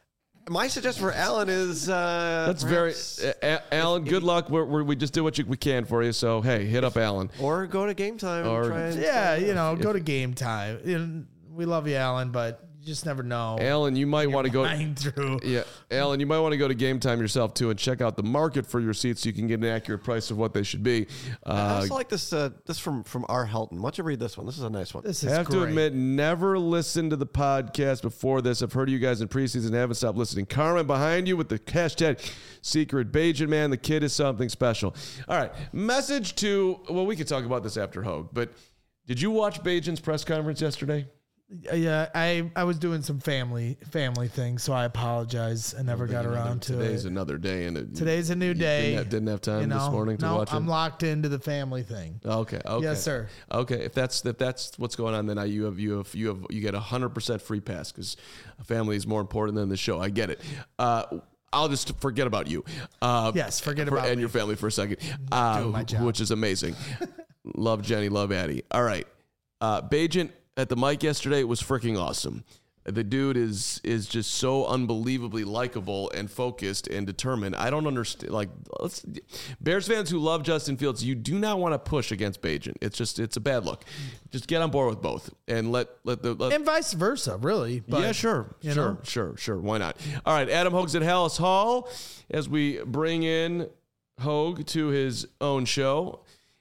my suggestion for Alan is uh, That's perhaps- very, uh, A- Alan. Good luck. We're, we're, we just did what you, we can for you. So hey, hit up Alan. or go to game time. Or- and try and yeah, you know, go to game time. You know, we love you, Alan, but you just never know. Alan, you might want to go. Mind through. Yeah, Alan, you might want to go to Game Time yourself too and check out the market for your seats so you can get an accurate price of what they should be. I Uh, also like this. Uh, this from from R. Helton. Why don't you read this one? This is a nice one. This I is have great. to admit, never listened to the podcast before this. I've heard you guys in preseason and haven't stopped listening. Carmen behind you with the hashtag secret Bajan man. The kid is something special. All right, message to. Well, we could talk about this after Hogue, but did you watch Bajan's press conference yesterday? Yeah, I I was doing some family family things, so I apologize. I never got around to Today's it. another day, and it, Today's a new you day. Didn't have, didn't have time You know, this morning to no, watch it. I'm locked into the family thing. Okay. Okay. Yes, sir. Okay. If that's if that's what's going on, then I, you have you have you have you get a hundred percent free pass because family is more important than the show. I get it. Uh, I'll just forget about you. Uh, Yes, forget for, about and me. your family for a second, uh, Doing my job. which is amazing. Love Jenny, love Addie. All right, uh, Bajan at the mic yesterday was freaking awesome. The dude is is just so unbelievably likable and focused and determined. I don't understand. Like, let's, Bears fans who love Justin Fields, you do not want to push against Bajan. It's just it's a bad look. Just get on board with both and let let the let, And vice versa, really. But, yeah, sure, you sure, know. sure, sure. Why not? All right, Adam Hogue's at Hallis Hall as we bring in Hogue to his own show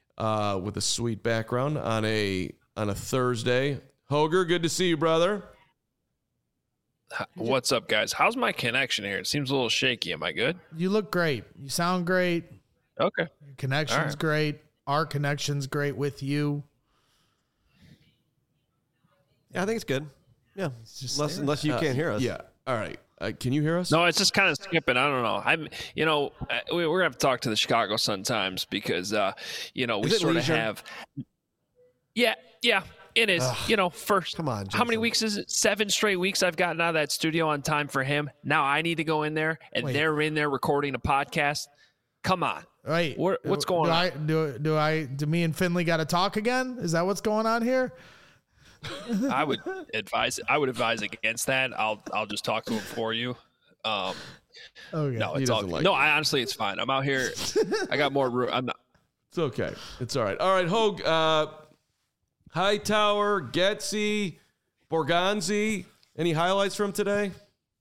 uh, with a sweet background on a on a Thursday. Hoger, good to see you, brother. What's up, guys? How's my connection here? It seems a little shaky. Am I good? You look great. You sound great. Okay. Your connection's All right. great. Our connection's great with you. Yeah, I think it's good. Yeah, just unless there. unless you Uh, can't hear us. Yeah. All right. Uh, can you hear us? No, it's just kind of skipping. I don't know. I'm, you know, we, we're gonna have to talk to the Chicago Sun Times because, uh, you know, we Is it sort of leisure? have. Yeah, yeah, it is. Ugh, you know, first, come on, how many Jason. weeks is it? Seven straight weeks I've gotten out of that studio on time for him. Now I need to go in there, and Wait. they're in there recording a podcast. Come on. Right. What- what's going do on? I, do, do I, do me and Finley got to talk again? Is that what's going on here? I would advise. I would advise against that. I'll, I'll just talk to him for you. Um, Okay. no, He it's all doesn't good. like no. it. I honestly, it's fine. I'm out here. I got more room. I'm not. It's okay. It's all right. All right, Hogue. Uh, Hightower, Getsy, Borgonzi. Any highlights from today?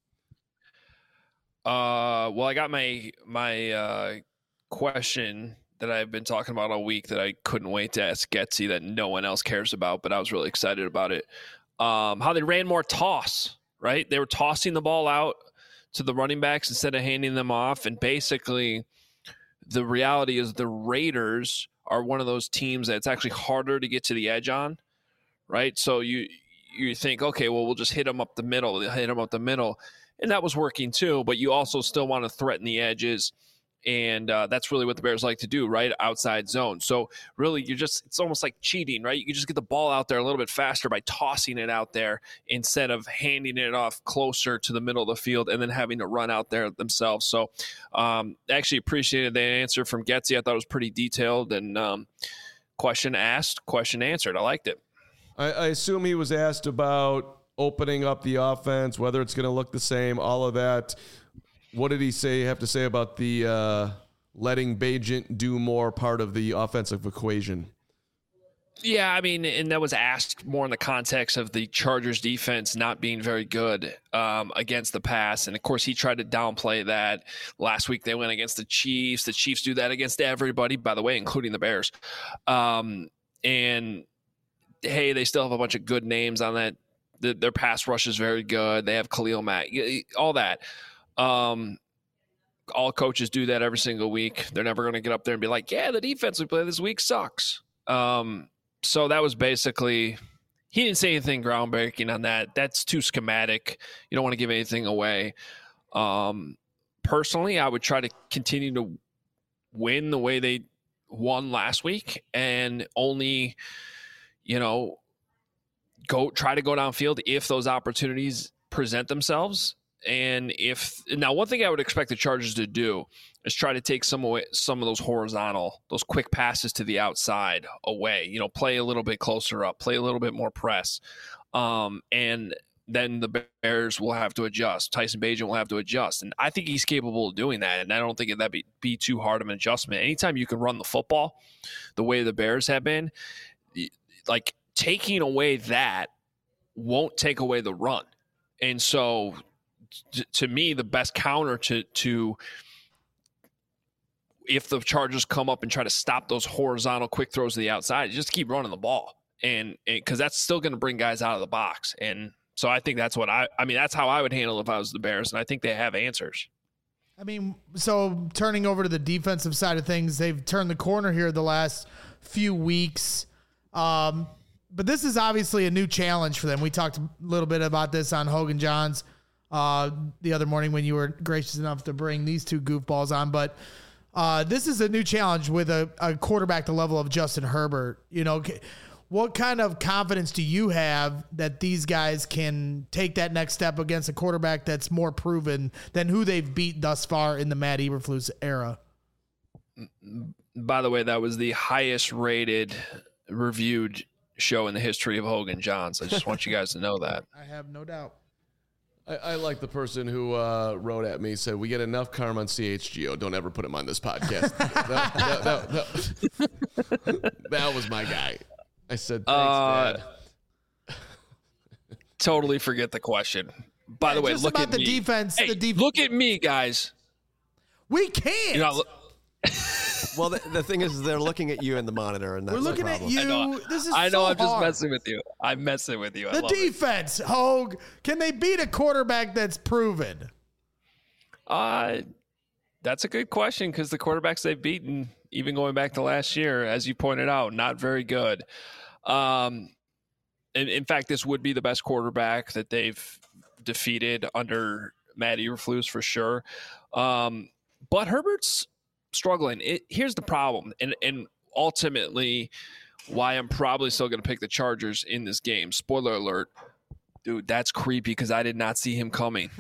Uh, well, I got my my uh, question that I've been talking about all week that I couldn't wait to ask Getsy that no one else cares about, but I was really excited about it. Um, how they ran more toss, right? They were tossing the ball out to the running backs instead of handing them off, and basically the reality is the Raiders are one of those teams that it's actually harder to get to the edge on, right? So you you think, okay, well, we'll just hit them up the middle, hit them up the middle. And that was working too, but you also still want to threaten the edges. And uh, that's really what the Bears like to do, right? Outside zone. So really, you're just, it's almost like cheating, right? You can just get the ball out there a little bit faster by tossing it out there instead of handing it off closer to the middle of the field and then having to run out there themselves. So um, I actually appreciated that answer from Getsy. I thought it was pretty detailed and um, question asked, question answered. I liked it. I, I assume he was asked about opening up the offense, whether it's going to look the same, all of that. What did he say? Have to say about the uh, letting Bagent do more part of the offensive equation? Yeah, I mean, and that was asked more in the context of the Chargers defense not being very good um, against the pass. And of course, he tried to downplay that. Last week, they went against the Chiefs. The Chiefs do that against everybody, by the way, including the Bears. Um, and hey, they still have a bunch of good names on that. The, their pass rush is very good. They have Khalil Mack, all that. Um, all coaches do that every single week. They're never going to get up there and be like, yeah, the defense we play this week sucks. Um, so that was basically, he didn't say anything groundbreaking on that. That's too schematic. You don't want to give anything away. Um, personally, I would try to continue to win the way they won last week and only, you know, go try to go downfield if those opportunities present themselves. And if now, one thing I would expect the Chargers to do is try to take some away, some of those horizontal, those quick passes to the outside away. You know, play a little bit closer up, play a little bit more press, um, and then the Bears will have to adjust. Tyson Bagent will have to adjust, and I think he's capable of doing that. And I don't think that'd be, be too hard of an adjustment. Anytime you can run the football, the way the Bears have been, like taking away that won't take away the run, and so. To me, the best counter to to if the Chargers come up and try to stop those horizontal quick throws to the outside, just keep running the ball, and because that's still going to bring guys out of the box. And so I think that's what I I mean that's how I would handle it if I was the Bears, and I think they have answers. I mean, so turning over to the defensive side of things, they've turned the corner here the last few weeks. Um, but this is obviously a new challenge for them. We talked a little bit about this on Hogan Johns uh, the other morning when you were gracious enough to bring these two goofballs on. But uh, this is a new challenge with a, a quarterback the level of Justin Herbert. You know, what kind of confidence do you have that these guys can take that next step against a quarterback that's more proven than who they've beat thus far in the Matt Eberflus era? By the way, that was the highest rated reviewed show in the history of Hogan Johns. I just want you guys to know that. I have no doubt. I, I like the person who uh, wrote at me, said, we get enough karma on C H G O. Don't ever put him on this podcast. that, that, that, that, that was my guy. I said, thanks, Uh, Dad. Totally forget the question. By the way, Just look about at the me. defense. Hey, the def- look at me, guys. we can't. You know, Well, the, the thing is, they're looking at you in the monitor, and that's We're looking the at problem. you. I know, This is I know so I'm just hard. messing with you. I'm messing with you. I The love it. defense, Hogue. Can they beat a quarterback that's proven? Uh, that's a good question because the quarterbacks they've beaten, even going back to last year, as you pointed out, not very good. Um, in, in fact, this would be the best quarterback that they've defeated under Matt Eberflus for sure. Um, but Herbert's struggling. It, here's the problem, and and ultimately why I'm probably still going to pick the Chargers in this game. Spoiler alert. Dude, that's creepy because I did not see him coming.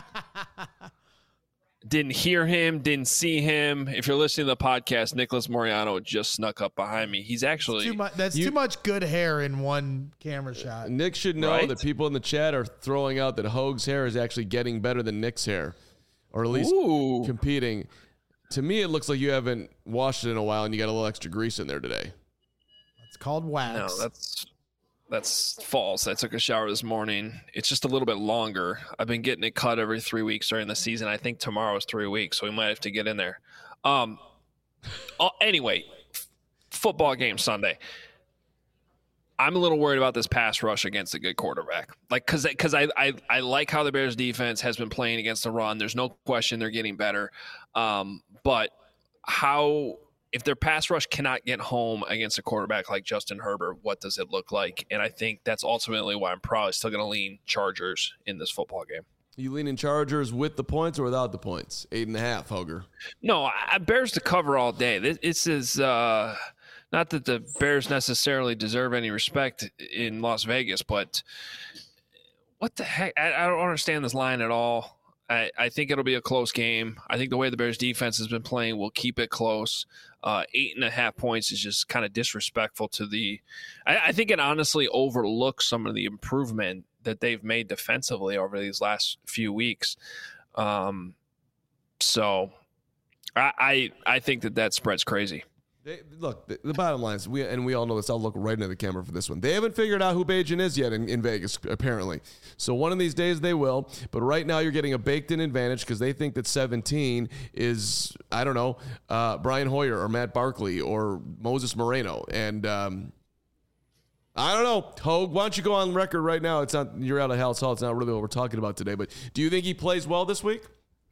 Didn't hear him, didn't see him. If you're listening to the podcast, Nicholas Moriano just snuck up behind me. He's actually... Too much, that's You- too much good hair in one camera shot. Nick should know Right? that people in the chat are throwing out that Hoag's hair is actually getting better than Nick's hair, or at least Ooh. competing. To me, it looks like you haven't washed it in a while and you got a little extra grease in there today. It's called wax. No, that's that's false. I took a shower this morning. It's just a little bit longer. I've been getting it cut every three weeks during the season. I think tomorrow is three weeks, so we might have to get in there. Um. uh, anyway, f- football game Sunday. I'm a little worried about this pass rush against a good quarterback. Like, because because I, I I like how the Bears defense has been playing against the run. There's no question they're getting better. Um, but how if their pass rush cannot get home against a quarterback like Justin Herbert, what does it look like? And I think that's ultimately why I'm probably still going to lean Chargers in this football game. You leaning Chargers with the points or without the points? Eight and a half, Hoger. No, I, Bears to cover all day. This, this is uh, not that the Bears necessarily deserve any respect in Las Vegas, but what the heck? I, I don't understand this line at all. I, I think it'll be a close game. I think the way the Bears defense has been playing will keep it close. Uh, eight and a half points is just kind of disrespectful to the I, I think it honestly overlooks some of the improvement that they've made defensively over these last few weeks. Um, so I, I I think that that spread's crazy. They, look, the, the bottom line is, we and we all know this. I'll look right into the camera for this one. They haven't figured out who Bajan is yet in, in Vegas, apparently. So one of these days they will. But right now you're getting a baked-in advantage because they think that seventeen is, I don't know, uh, Brian Hoyer or Matt Barkley or Moses Moreno. And um, I don't know, Hogue, why don't you go on record right now? It's not you're out of Hal's Hall. It's not really what we're talking about today. But do you think he plays well this week?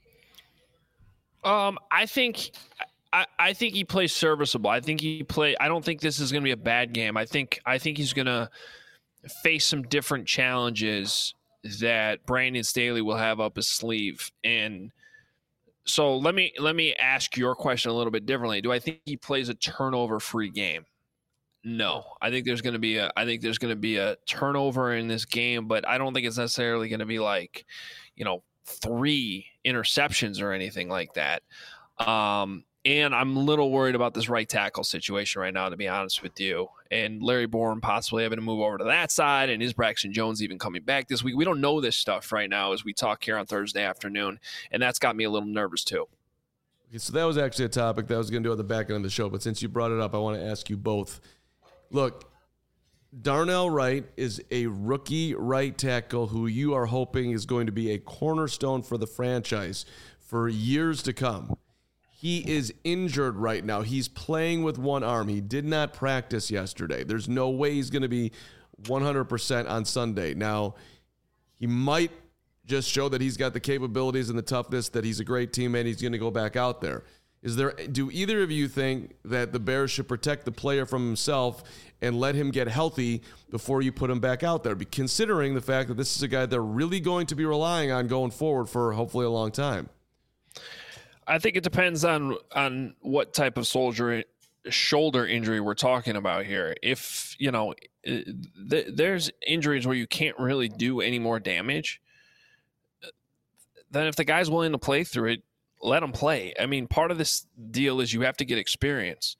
Um, I think. I, I think he plays serviceable. I think he play. I don't think this is going to be a bad game. I think I think he's going to face some different challenges that Brandon Staley will have up his sleeve. And so let me let me ask your question a little bit differently. Do I think he plays a turnover-free game? No. I think there's going to be a I think there's going to be a turnover in this game, but I don't think it's necessarily going to be like, you know, three interceptions or anything like that. Um, And I'm a little worried about this right tackle situation right now, to be honest with you. And Larry Bourne possibly having to move over to that side, and is Braxton Jones even coming back this week? We don't know this stuff right now as we talk here on Thursday afternoon, and that's got me a little nervous too. Okay, so that was actually a topic that I was going to do at the back end of the show, but since you brought it up, I want to ask you both. Look, Darnell Wright is a rookie right tackle who you are hoping is going to be a cornerstone for the franchise for years to come. He is injured right now. He's playing with one arm. He did not practice yesterday. There's no way he's going to be one hundred percent on Sunday. Now, he might just show that he's got the capabilities and the toughness, that he's a great teammate. He's going to go back out there. Is there? Do either of you think that the Bears should protect the player from himself and let him get healthy before you put him back out there, considering the fact that this is a guy they're really going to be relying on going forward for hopefully a long time? I think it depends on on what type of soldier shoulder injury we're talking about here. If, you know, th- there's injuries where you can't really do any more damage, then if the guy's willing to play through it, let him play. I mean, part of this deal is you have to get experience.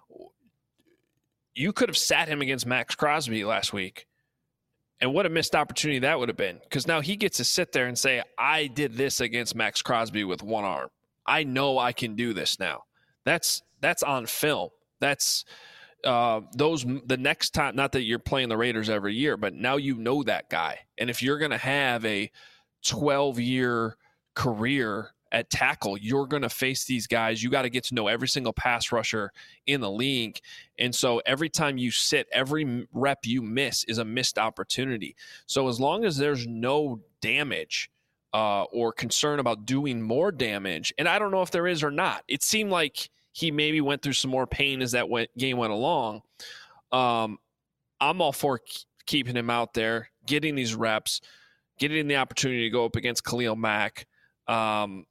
You could have sat him against Max Crosby last week, and what a missed opportunity that would have been, because now he gets to sit there and say, I did this against Max Crosby with one arm. I know I can do this now. That's that's on film. That's uh, those the next time. Not that you're playing the Raiders every year, but now you know that guy. And if you're going to have a twelve-year career at tackle, you're going to face these guys. You got to get to know every single pass rusher in the league. And so every time you sit, every rep you miss is a missed opportunity. So as long as there's no damage Uh, or concern about doing more damage. And I don't know if there is or not. It seemed like he maybe went through some more pain as that went, game went along. Um, I'm all for k- keeping him out there, getting these reps, getting the opportunity to go up against Khalil Mack. Um,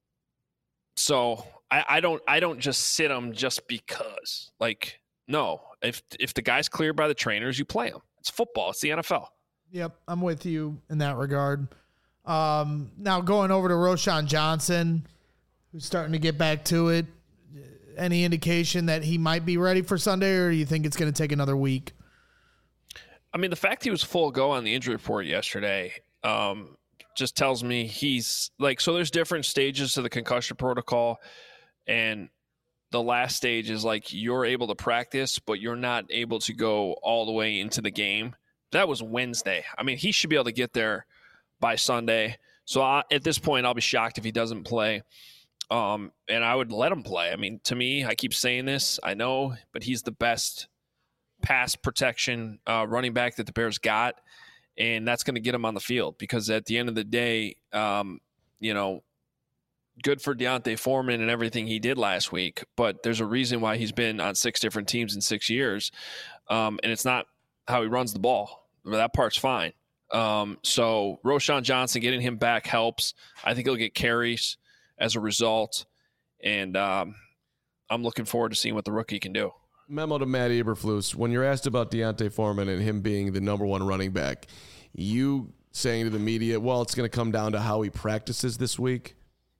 so I, I don't I don't just sit him just because. Like, no, if if the guy's cleared by the trainers, you play him. It's football. It's the N F L. Yep, I'm with you in that regard. Um, now going over to Roschon Johnson, who's starting to get back to it. Any indication that he might be ready for Sunday, or do you think it's going to take another week? I mean, the fact he was full go on the injury report yesterday um, just tells me he's like, so there's different stages to the concussion protocol. And the last stage is like you're able to practice, but you're not able to go all the way into the game. That was Wednesday. I mean, he should be able to get there by Sunday. So I, at this point, I'll be shocked if he doesn't play. Um, and I would let him play. I mean, to me, I keep saying this, I know, but he's the best pass protection uh, running back that the Bears got, and that's going to get him on the field because at the end of the day, um, you know, good for D'Onta Foreman and everything he did last week, but there's a reason why he's been on six different teams in six years, um, and it's not how he runs the ball. That part's fine. Um, so Roschon Johnson, getting him back helps. I think he'll get carries as a result, and um, I'm looking forward to seeing what the rookie can do. Memo to Matt Eberflus. When you're asked about D'Onta Foreman and him being the number one running back, you saying to the media, well, it's going to come down to how he practices this week.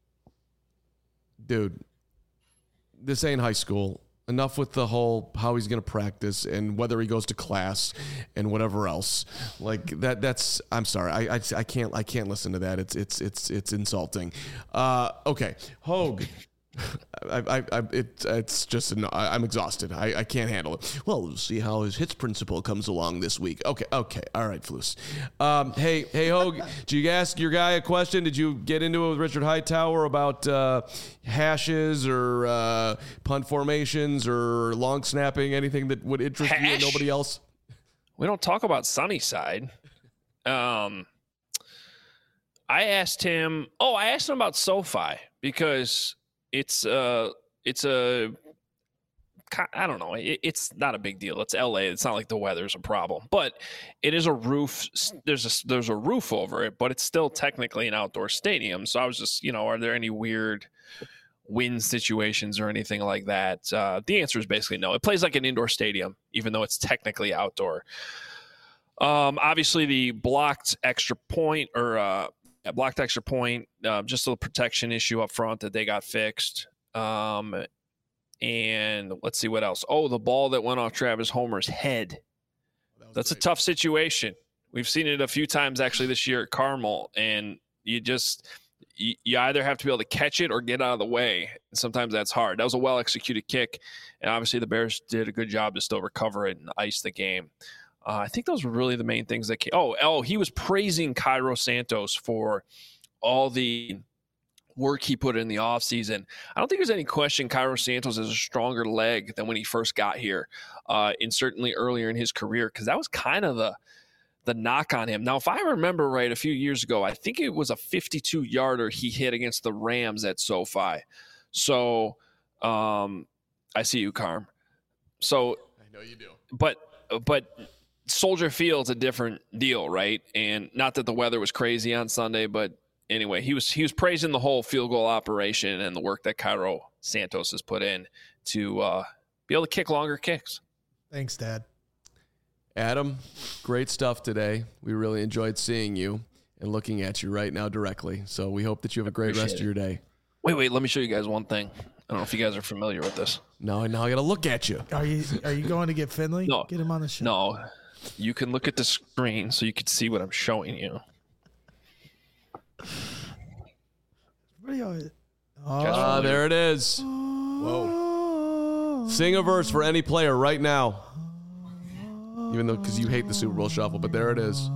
Dude, this ain't high school. Enough with the whole how he's going to practice and whether he goes to class and whatever else. Like that. That's. I'm sorry. I. I, I can't. I can't listen to that. It's. It's. It's. It's insulting. Uh, okay, Hogue. I, I, I, it, it's just, an, I, I'm exhausted. I, I can't handle it. Well, we'll see how his hits principle comes along this week. Okay, okay, all right, Flus. Um, hey, hey, Hogue, did you ask your guy a question? Did you get into it with Richard Hightower about uh, hashes or uh, punt formations or long snapping, anything that would interest Hash? you and nobody else? We don't talk about Sunnyside. Um, I asked him, oh, I asked him about SoFi because It's uh, it's a, I don't know. It, it's not a big deal. It's L A. It's not like the weather's a problem, but it is a roof. There's a there's a roof over it, but it's still technically an outdoor stadium. So I was just, you know, are there any weird wind situations or anything like that? Uh, the answer is basically no. It plays like an indoor stadium, even though it's technically outdoor. Um, obviously the blocked extra point or uh. A blocked extra point, uh, just a protection issue up front that they got fixed. Um, and let's see what else. Oh, the ball that went off Travis Homer's head. That That's great. A tough situation. We've seen it a few times actually this year at Carmel, and you just you, you either have to be able to catch it or get out of the way. And sometimes that's hard. That was a well-executed kick, and obviously the Bears did a good job to still recover it and ice the game. Uh, I think those were really the main things that came. Oh, oh, he was praising Cairo Santos for all the work he put in the offseason. I don't think there's any question Cairo Santos has a stronger leg than when he first got here, uh, and certainly earlier in his career, because that was kind of the the knock on him. Now, if I remember right, a few years ago, I think it was a fifty-two-yarder he hit against the Rams at SoFi. So um, I see you, Carm. So I know you do. But but. Soldier Field's a different deal, right? And not that the weather was crazy on Sunday, but anyway, he was he was praising the whole field goal operation and the work that Cairo Santos has put in to uh, be able to kick longer kicks. Thanks, Dad. Adam, great stuff today. We really enjoyed seeing you and looking at you right now directly. So we hope that you have a great Appreciate rest it. of your day. Wait, wait, let me show you guys one thing. I don't know if you guys are familiar with this. No, now I got to look at you. Are you are you going to get Finley? No. Get him on the show. No. You can look at the screen so you can see what I'm showing you. Ah, uh, there it is. Whoa. Sing a verse for any player right now. Even though, because you hate the Super Bowl shuffle, but there it is.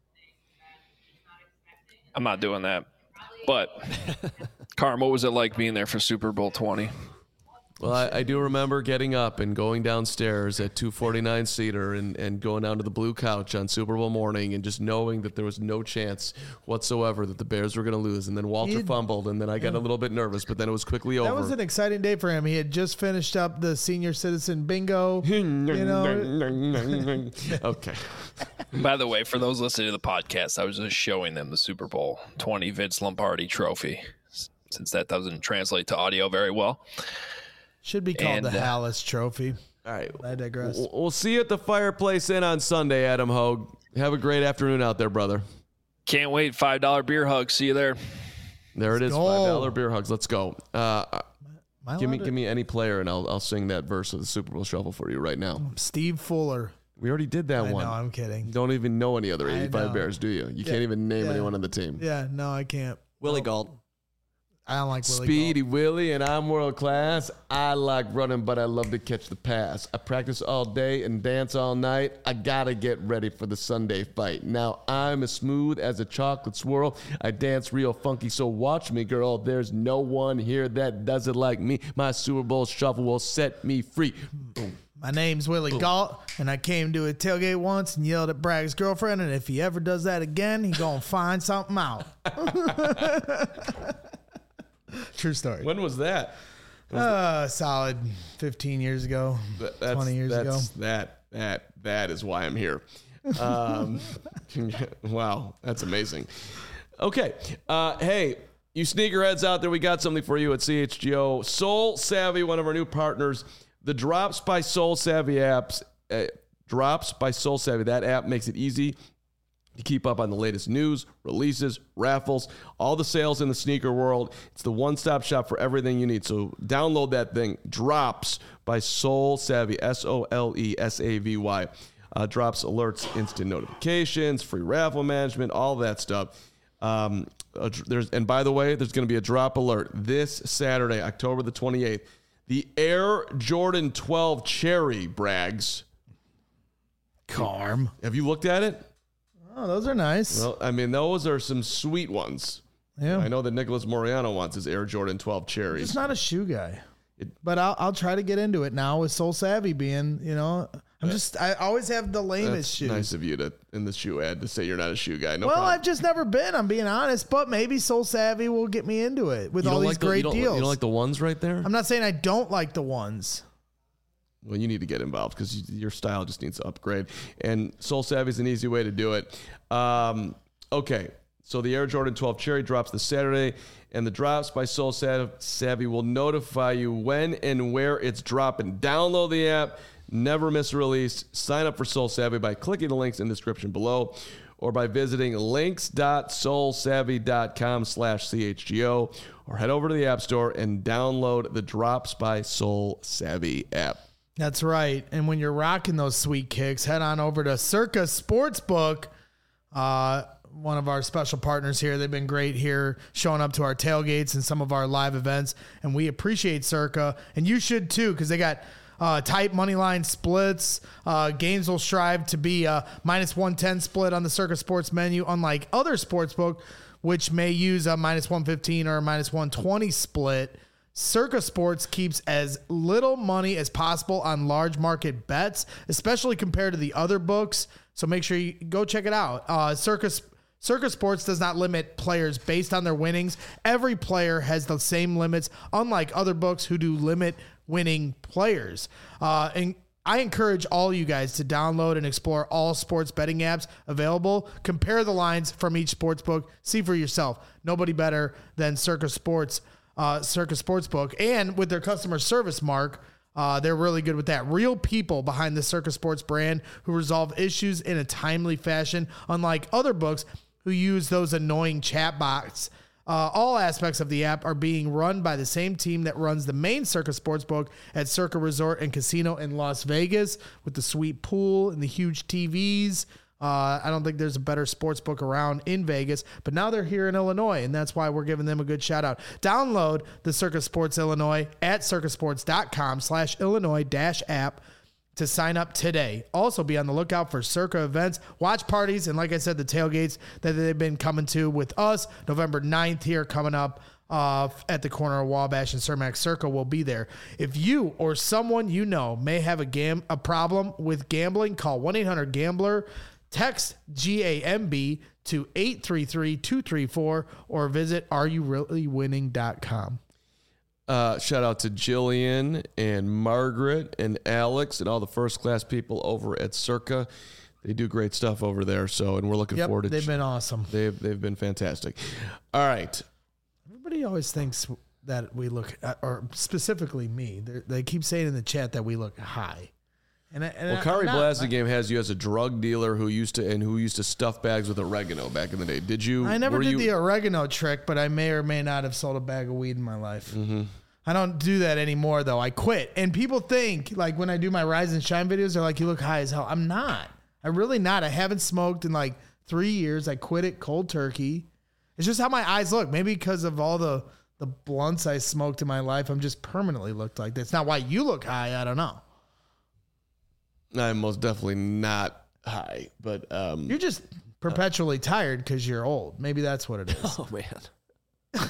I'm not doing that. But, Carm, what was it like being there for Super Bowl twenty? Well, I, I do remember getting up and going downstairs at two forty-nine Cedar and, and going down to the blue couch on Super Bowl morning and just knowing that there was no chance whatsoever that the Bears were going to lose. And then Walter He'd, fumbled, and then I got yeah. a little bit nervous, but then it was quickly over. That was an exciting day for him. He had just finished up the senior citizen bingo. you know. Okay. By the way, for those listening to the podcast, I was just showing them the Super Bowl twenty Vince Lombardi trophy. since that doesn't translate to audio very well. Should be called And, the uh, Hallis Trophy. All right. I digress. We'll we'll see you at the Fireplace Inn on Sunday, Adam Hogue. Have a great afternoon out there, brother. Can't wait. five dollar beer hug. See you there. There it is. go. five dollar beer hugs. Let's go. Uh, Am I give me allowed give me any player, and I'll I'll sing that verse of the Super Bowl Shuffle for you right now. to- Steve Fuller. We already did that I one. know, I'm kidding. Don't even know any other I eighty-five know. Bears, do you? You can't even name yeah. anyone on the team. Yeah, no, I can't. Willie Galt. I don't like Willie Speedy Galt. Willie, and I'm world class. I like running, but I love to catch the pass. I practice all day and dance all night. I gotta get ready for the Sunday fight. Now I'm as smooth as a chocolate swirl. I dance real funky, so watch me, girl. There's no one here that does it like me. My Super Bowl Shuffle will set me free. Boom. My name's Willie Galt, and I came to a tailgate once and yelled at Bragg's girlfriend, and if he ever does that again, he gonna find something out. True story. When was that? Uh, solid fifteen years ago, That- That's, twenty years ago. that's, That that that is why I'm here. Um, wow, that's amazing. Okay, uh, hey, you sneakerheads out there, we got something for you at C H G O. Soul Savvy, one of our new partners, the Drops by Soul Savvy apps. Uh, Drops by Soul Savvy. That app makes it easy to keep up on the latest news, releases, raffles, all the sales in the sneaker world. It's the one-stop shop for everything you need. So download that thing. Drops by Soul Savvy, S O L E S A V Y. Uh, drops alerts, instant notifications, free raffle management, all that stuff. Um, uh, there's and by the way, there's going to be a drop alert this Saturday, October the twenty-eighth. The Air Jordan twelve Cherry, Brags. Carm. Have you looked at it? Oh, those are nice. Well, I mean, those are some sweet ones. yeah. I know that Nicholas Moriano wants his Air Jordan twelve Cherries. Just not a shoe guy. It- but I'll I'll try to get into it now with Soul Savvy being, you know, I'm just I always have the lamest That's shoes. nice of you to in the shoe ad to say you're not a shoe guy. No well, problem. I've just never been. I'm being honest, but maybe Soul Savvy will get me into it with You all don't these like the- great you don't, deals. You don't like the ones right there? I'm not saying I don't like the ones. Well, you need to get involved because you, your style just needs to upgrade. And Soul Savvy is an easy way to do it. Um, okay, so the Air Jordan twelve Cherry drops this Saturday, and the Drops by Soul Savvy will notify you when and where it's dropping. Download the app, never miss a release. Sign up for Soul Savvy by clicking the links in the description below or by visiting links.soulsavvy.com slash CHGO or head over to the App Store and download the Drops by Soul Savvy app. That's right. And when you're rocking those sweet kicks, head on over to Circa Sportsbook. Uh, one of our special partners here. They've been great here showing up to our tailgates and some of our live events. And we appreciate Circa. And you should too, because they got uh, tight money line splits. Uh, games will strive to be a minus one ten split on the Circa Sports menu, unlike other sportsbook, which may use a minus one fifteen or a minus one twenty split. Circa Sports keeps as little money as possible on large market bets, especially compared to the other books. So make sure you go check it out. Uh, Circa, Circa Sports does not limit players based on their winnings. Every player has the same limits, unlike other books who do limit winning players. Uh, and I encourage all you guys to download and explore all sports betting apps available. Compare the lines from each sports book. See for yourself. Nobody better than Circa Sports. Uh, Circa Sportsbook, and with their customer service mark, uh, they're really good with that. Real people behind the Circa Sports brand who resolve issues in a timely fashion, unlike other books who use those annoying chat bots. Uh, all aspects of the app are being run by the same team that runs the main Circa Sportsbook at Circa Resort and Casino in Las Vegas with the sweet pool and the huge T Vs. Uh, I don't think there's a better sports book around in Vegas, but now they're here in Illinois, and that's why we're giving them a good shout out. Download the Circa Sports Illinois at circasports.com slash Illinois dash app to sign up today. Also be on the lookout for Circa events, watch parties, and like I said, the tailgates that they've been coming to with us. November ninth here coming up uh, at the corner of Wabash and Cermak. Circa will be there. If you or someone you know may have a, gam- a problem with gambling, call one eight hundred gambler. Text G A M B to eight three three, two three four or visit are you really winning dot com. Uh, shout out to Jillian and Margaret and Alex and all the first class people over at Circa. They do great stuff over there. So, and we're looking Yep, forward to they've ch- been awesome. They've they've been fantastic. All right. Everybody always thinks that we look, or specifically me, They're, they keep saying in the chat that we look high. And, I, and well, I- Kari I'm not- Blasingame has you as a drug dealer who used to and who used to stuff bags with oregano back in the day. Did you? I never were did you, the oregano trick, but I may or may not have sold a bag of weed in my life. Mm-hmm. I don't do that anymore, though. I quit. And people think, like, when I do my Rise and Shine videos, they're like, you look high as hell. I'm not. I'm really not. I haven't smoked in, like, three years. I quit it cold turkey. It's just how my eyes look. Maybe because of all the, the blunts I smoked in my life, I'm just permanently looked like this. Not why you look high. I don't know. I'm most definitely not high, but um, You're just perpetually tired because you're old. Maybe that's what it is. Oh man.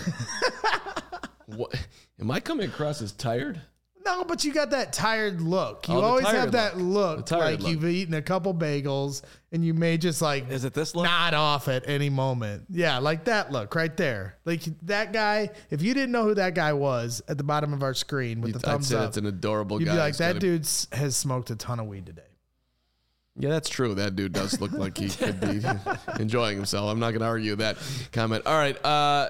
what, am I coming across as tired? No, but you got that tired look. You Oh, the always tired have that look. look, The tired like look. you've eaten a couple bagels and you may just like Is it this look? nod off at any moment. Yeah, like that look right there. Like that guy, if you didn't know who that guy was at the bottom of our screen with the I'd thumbs say up, that's an adorable you'd guy. be like, He's that got a- dude has smoked a ton of weed today. Yeah, that's true. That dude does look like he could be enjoying himself. I'm not going to argue that comment. All right. Uh,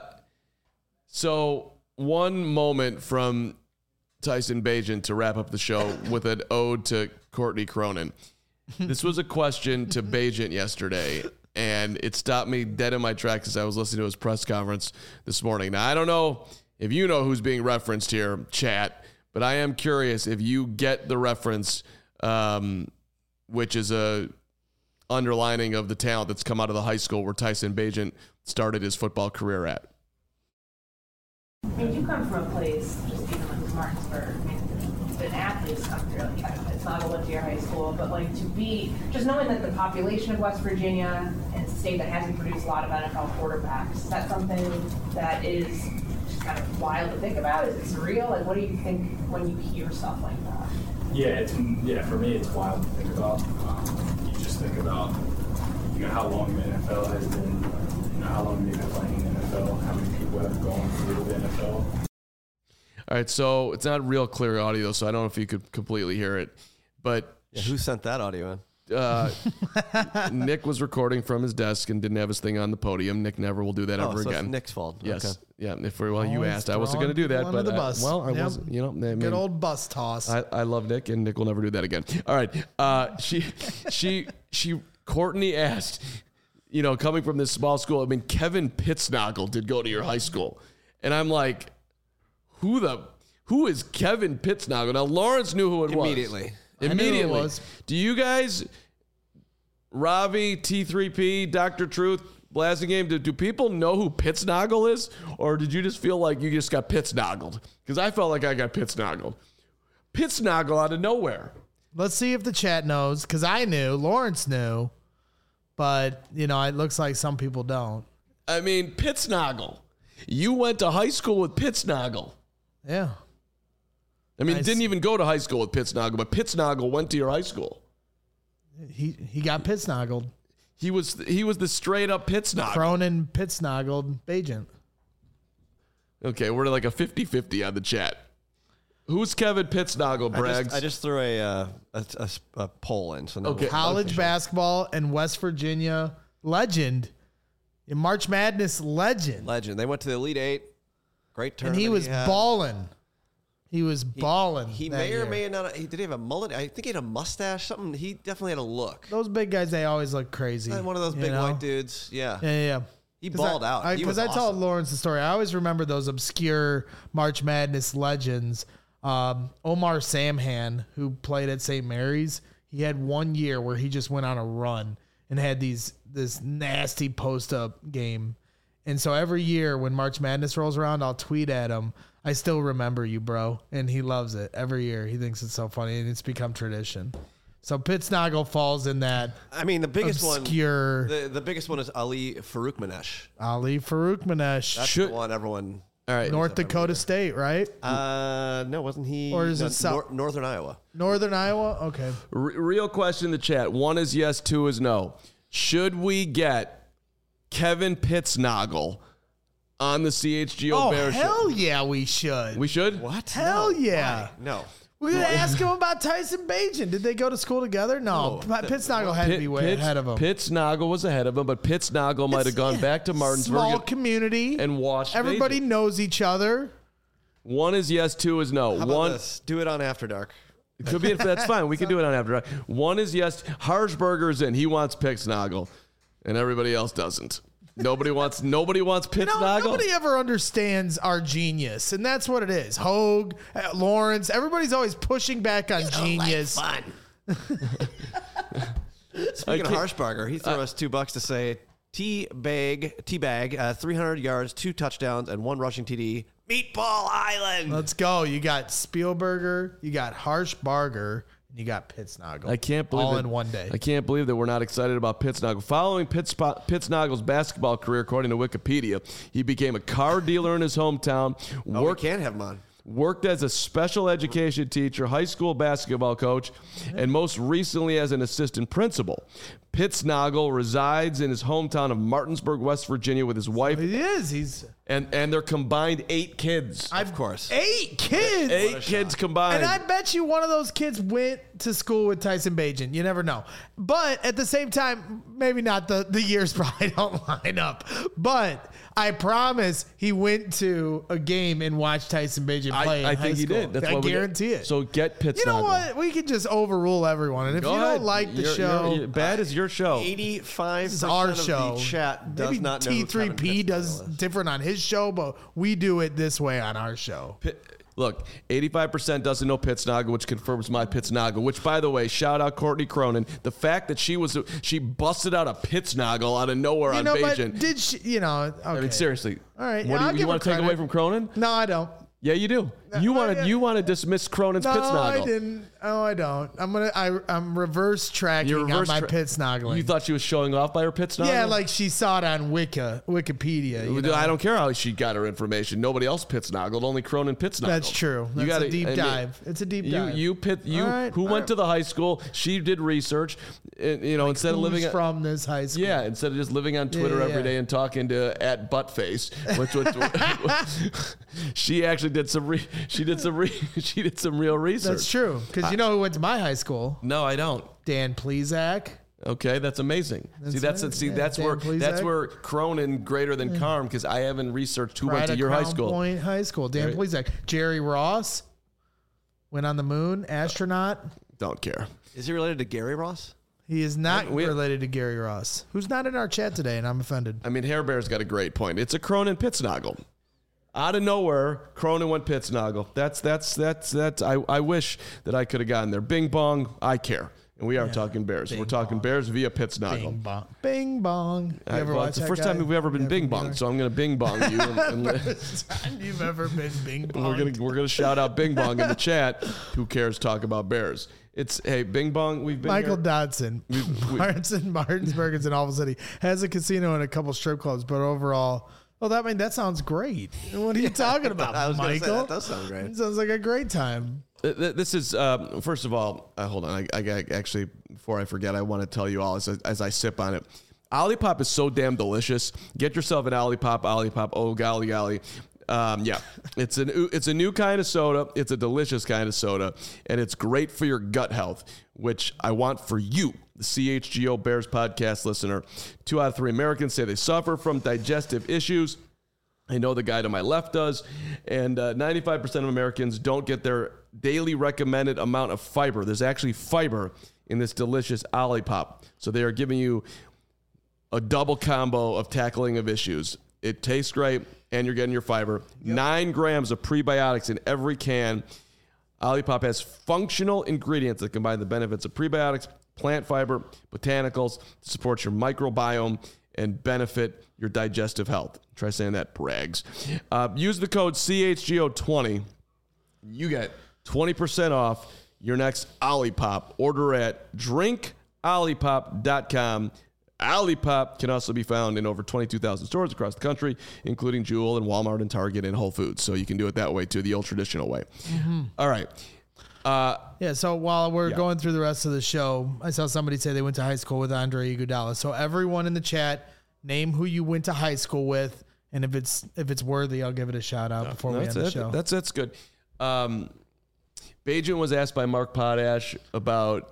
so one moment from Tyson Bagent to wrap up the show with an ode to Courtney Cronin. This was a question to Bagent yesterday, and it stopped me dead in my tracks as I was listening to his press conference this morning. Now, I don't know if you know who's being referenced here, chat, but I am curious if you get the reference, um, which is a underlining of the talent that's come out of the high school where Tyson Bagent started his football career at. I mean, you come from a place, just even like Martinsburg, I mean, the athletes come through, like, it's not a Olympia High School, but like to be, just knowing that the population of West Virginia and it's a state that hasn't produced a lot of N F L quarterbacks, is that something that is just kind of wild to think about? Is it surreal? Like, what do you think when you hear stuff like that? Yeah, it's, yeah, for me, it's wild to think about. Um, you just think about, you know, how long the N F L has been, you know, how long they've been playing in the N F L, how many people have gone through the N F L. All right, so it's not real clear audio, so I don't know if you could completely hear it. But Yeah, who sent that audio in? uh, Nick was recording from his desk and didn't have his thing on the podium. Nick never will do that Oh, ever so again. it's Nick's fault. Yes. Okay. Yeah. If we, well, you Always asked. I wasn't going to do throwing that, people but under the uh, bus. well, I Yep. wasn't. You know, I mean, Good old bus toss. I, I love Nick, and Nick will never do that again. All right. Uh, she, she, she. Courtney asked, you know, coming from this small school. I mean, Kevin Pittsnogle did go to your high school, and I'm like, who the, who is Kevin Pittsnogle? Now Lawrence knew who it was Immediately. I knew who it Immediately. was. Do you guys, Ravi, T three P, Doctor Truth, Blasting Game, do, do people know who Pittsnogle is? Or did you just feel like you just got Pittsnogled? Because I felt like I got Pittsnogled. Pittsnogle out of nowhere. Let's see if the chat knows, because I knew, Lawrence knew, but, you know, it looks like some people don't. I mean, Pittsnogle. You went to high school with Pittsnogle. Yeah. I mean, Nice. didn't even go to high school with Pittsnogle, but Pittsnogle went to your high school. He he got Pittsnogled. He was he was the straight up Pittsnogle. Cronin Pittsnogled Bagent. Okay, we're like a fifty-fifty on the chat. Who's Kevin Pittsnogle, I Braggs? just, I just threw a, uh, a, a, a poll in. So no Okay. College basketball and West Virginia legend. In March Madness legend. legend. They went to the Elite Eight. Great And tournament. he was had. balling. He was balling. He that may or year. may not. He did he have a mullet? I think he had a mustache. Something. He definitely had a look. Those big guys, they always look crazy. One of those you big know? white dudes. Yeah. Yeah, yeah, yeah. He 'Cause balled I, out. I, He Because was I told awesome. Lawrence the story. I always remember those obscure March Madness legends. Um, Omar Samhan, who played at Saint Mary's, he had one year where he just went on a run and had these this nasty post up game. And so every year when March Madness rolls around, I'll tweet at him, I still remember you, bro. And he loves it. Every year he thinks it's so funny, and it's become tradition. So Pittsnogle falls in that I mean, the biggest obscure one. The, the biggest one is Ali Faroukmanesh. Ali Faroukmanesh. That's Should- the one everyone. All right. North Dakota State, right? Uh, no, wasn't he? Or is it no, South- Nor- Northern Iowa? Northern Iowa? Okay. R- real question in the chat. One is yes, two is no. Should we get Kevin Pittsnogle on the C H G O Oh, Bear hell show? yeah, we should. We should? What? Hell No. yeah. Why? No. We're going to ask him about Tyson Bagent. Did they go to school together? No. Oh, Pittsnogle had to be way Pitts- ahead of him. Pittsnogle was ahead of him, but Pittsnogle might have gone yeah, back to Martinsburg Small and, community. and watched. Everybody Bagent. knows each other. One is yes, two is no. How about One this? Do it on After Dark. it could be. That's fine. We can do it on after. One is yes. Harshberger's in. He wants Pittsnogle, and everybody else doesn't. Nobody wants. Nobody wants No, Pittsnogle. nobody ever understands our genius, and that's what it is. Hogue, uh, Lawrence, everybody's always pushing back on genius. Speaking of can't- Harshbarger, he threw us two bucks to say T bag, T bag, uh, three hundred yards, two touchdowns, and one rushing T D. Meatball Island. Let's go. You got Spielberger, you got Harshbarger, and you got Pittsnogle. I can't believe all that, in one day. I can't believe that we're not excited about Pittsnogle. Following Pitts, Pittsnogle's basketball career, according to Wikipedia, he became a car dealer in his hometown. Oh, we Worked can't have him on. worked as a special education teacher, high school basketball coach, and most recently as an assistant principal. Pittsnogle resides in his hometown of Martinsburg, West Virginia, with his wife He is. He's and, and their combined eight kids. Of course. eight kids. Eight kids combined. And I bet you one of those kids went to school with Tyson Bagent. You never know. But at the same time, maybe not the, the years probably don't line up. But I promise he went to a game and watched Tyson Bagent I, play in I high think he school. did. That's I why we guarantee get, it. So get Pittsnogle. You know what? We can just overrule everyone. And if Go you ahead. don't like the You're- show, you're- you're- bad is your show. eighty-five this is percent our of show. the chat does Maybe not know who T three Kevin P Pittsnogle does is. different on his show, but we do it this way on our show. Pi- Look, eighty-five percent doesn't know Pittsnogle, which confirms my Pittsnogle, which, by the way, shout out Courtney Cronin. The fact that she was she busted out a Pittsnogle out of nowhere You on know, but Bagent. did she, you know, okay. I mean, seriously. All right, What yeah, I'll do you, give you her want to take credit. away from Cronin? No, I don't. Yeah, you do. You No, want I- to you want to dismiss Cronin's No, Pittsnogle. I didn't. Oh, I don't. I'm gonna. I, I'm reverse tracking You're reverse on my tra- Pittsnoggling. You thought she was showing off by her Pittsnogle? yeah, like she saw it on Wiki, Wikipedia. You know? I don't care how she got her information. Nobody else Pittsnogled, only Cronin Pittsnogle. That's true. That's You gotta- a deep I mean, dive. It's a deep you, dive. You pit you All right, who all went right. to the high school. She did research. and, You know, instead of Who's living at- from this high school? Yeah, instead of just living on Twitter yeah, every yeah. day and talking to at buttface, which, which she actually did some re, she did some re, she did some real research. That's true. Because you know who went to my high school? No, I don't. Dan Plezak. Okay, that's amazing. see, that's right. see, Yeah, that's Dan where that's Plezak. where Cronin greater than Carm because I haven't researched who went Right to at your high Crown school. Point High School. Dan Right. Plezak. Jerry Ross went on the moon. Astronaut. Don't care. Is he related to Gary Ross? He is not We- related to Gary Ross, who's not in our chat today, and I'm offended. I mean, Hair Bear's got a great point. It's a Cronin Pittsnogle. Out of nowhere, Cronin went Pittsnogle. That's that's that's that's. I, I wish that I could have gotten there. Bing bong. I care. And we are talking Bears. We're talking Bears via Pittsnogle. Bing bong. Bing bong. You I- ever well, watch it's the that first guy? time we've ever been You bing ever bong, so I'm going to bing bong you. And, and li- First time you've ever been bing bong. we're gonna we're gonna shout out Bing Bong in the chat. Who cares? Talk about Bears. It's hey Bing Bong. We've been Michael here. Dodson, we- Martinson, Martinsburg is in Alva City, has a casino and a couple strip clubs, but overall, well, that I mean that sounds great. What are you talking about, I was gonna say, Michael? that does sound great. It sounds like a great time. Th- th- This is um, first of all. Uh, hold on. I, I, I actually before I forget, I want to tell you all as I, as I sip on it. Olipop is so damn delicious. Get yourself an Olipop. Olipop. Oh golly golly. Um, yeah, it's an it's a new kind of soda. It's a delicious kind of soda, and it's great for your gut health, which I want for you, the C H G O Bears podcast listener. Two out of three Americans say they suffer from digestive issues. I know the guy to my left does, and uh, ninety-five percent of Americans don't get their daily recommended amount of fiber. There's actually fiber in this delicious Olipop, so they are giving you a double combo of tackling of issues. It tastes great, and you're getting your fiber. Nine grams of prebiotics in every can. Olipop has functional ingredients that combine the benefits of prebiotics, plant fiber, botanicals to support your microbiome and benefit your digestive health. Try saying that, brags. Uh, use the code C H G O twenty. You get twenty percent off your next Olipop. Order at drink olipop dot com. Olipop can also be found in over twenty-two thousand stores across the country, including Jewel and Walmart and Target and Whole Foods. So you can do it that way too, the old traditional way. All right. Uh, Yeah, so while we're Yeah. going through the rest of the show, I saw somebody say they went to high school with Andre Iguodala. So everyone in the chat, name who you went to high school with, and if it's if it's worthy, I'll give it a shout out before we end that's the it. show. That's that's good. Um, Bajan was asked by Mark Potash about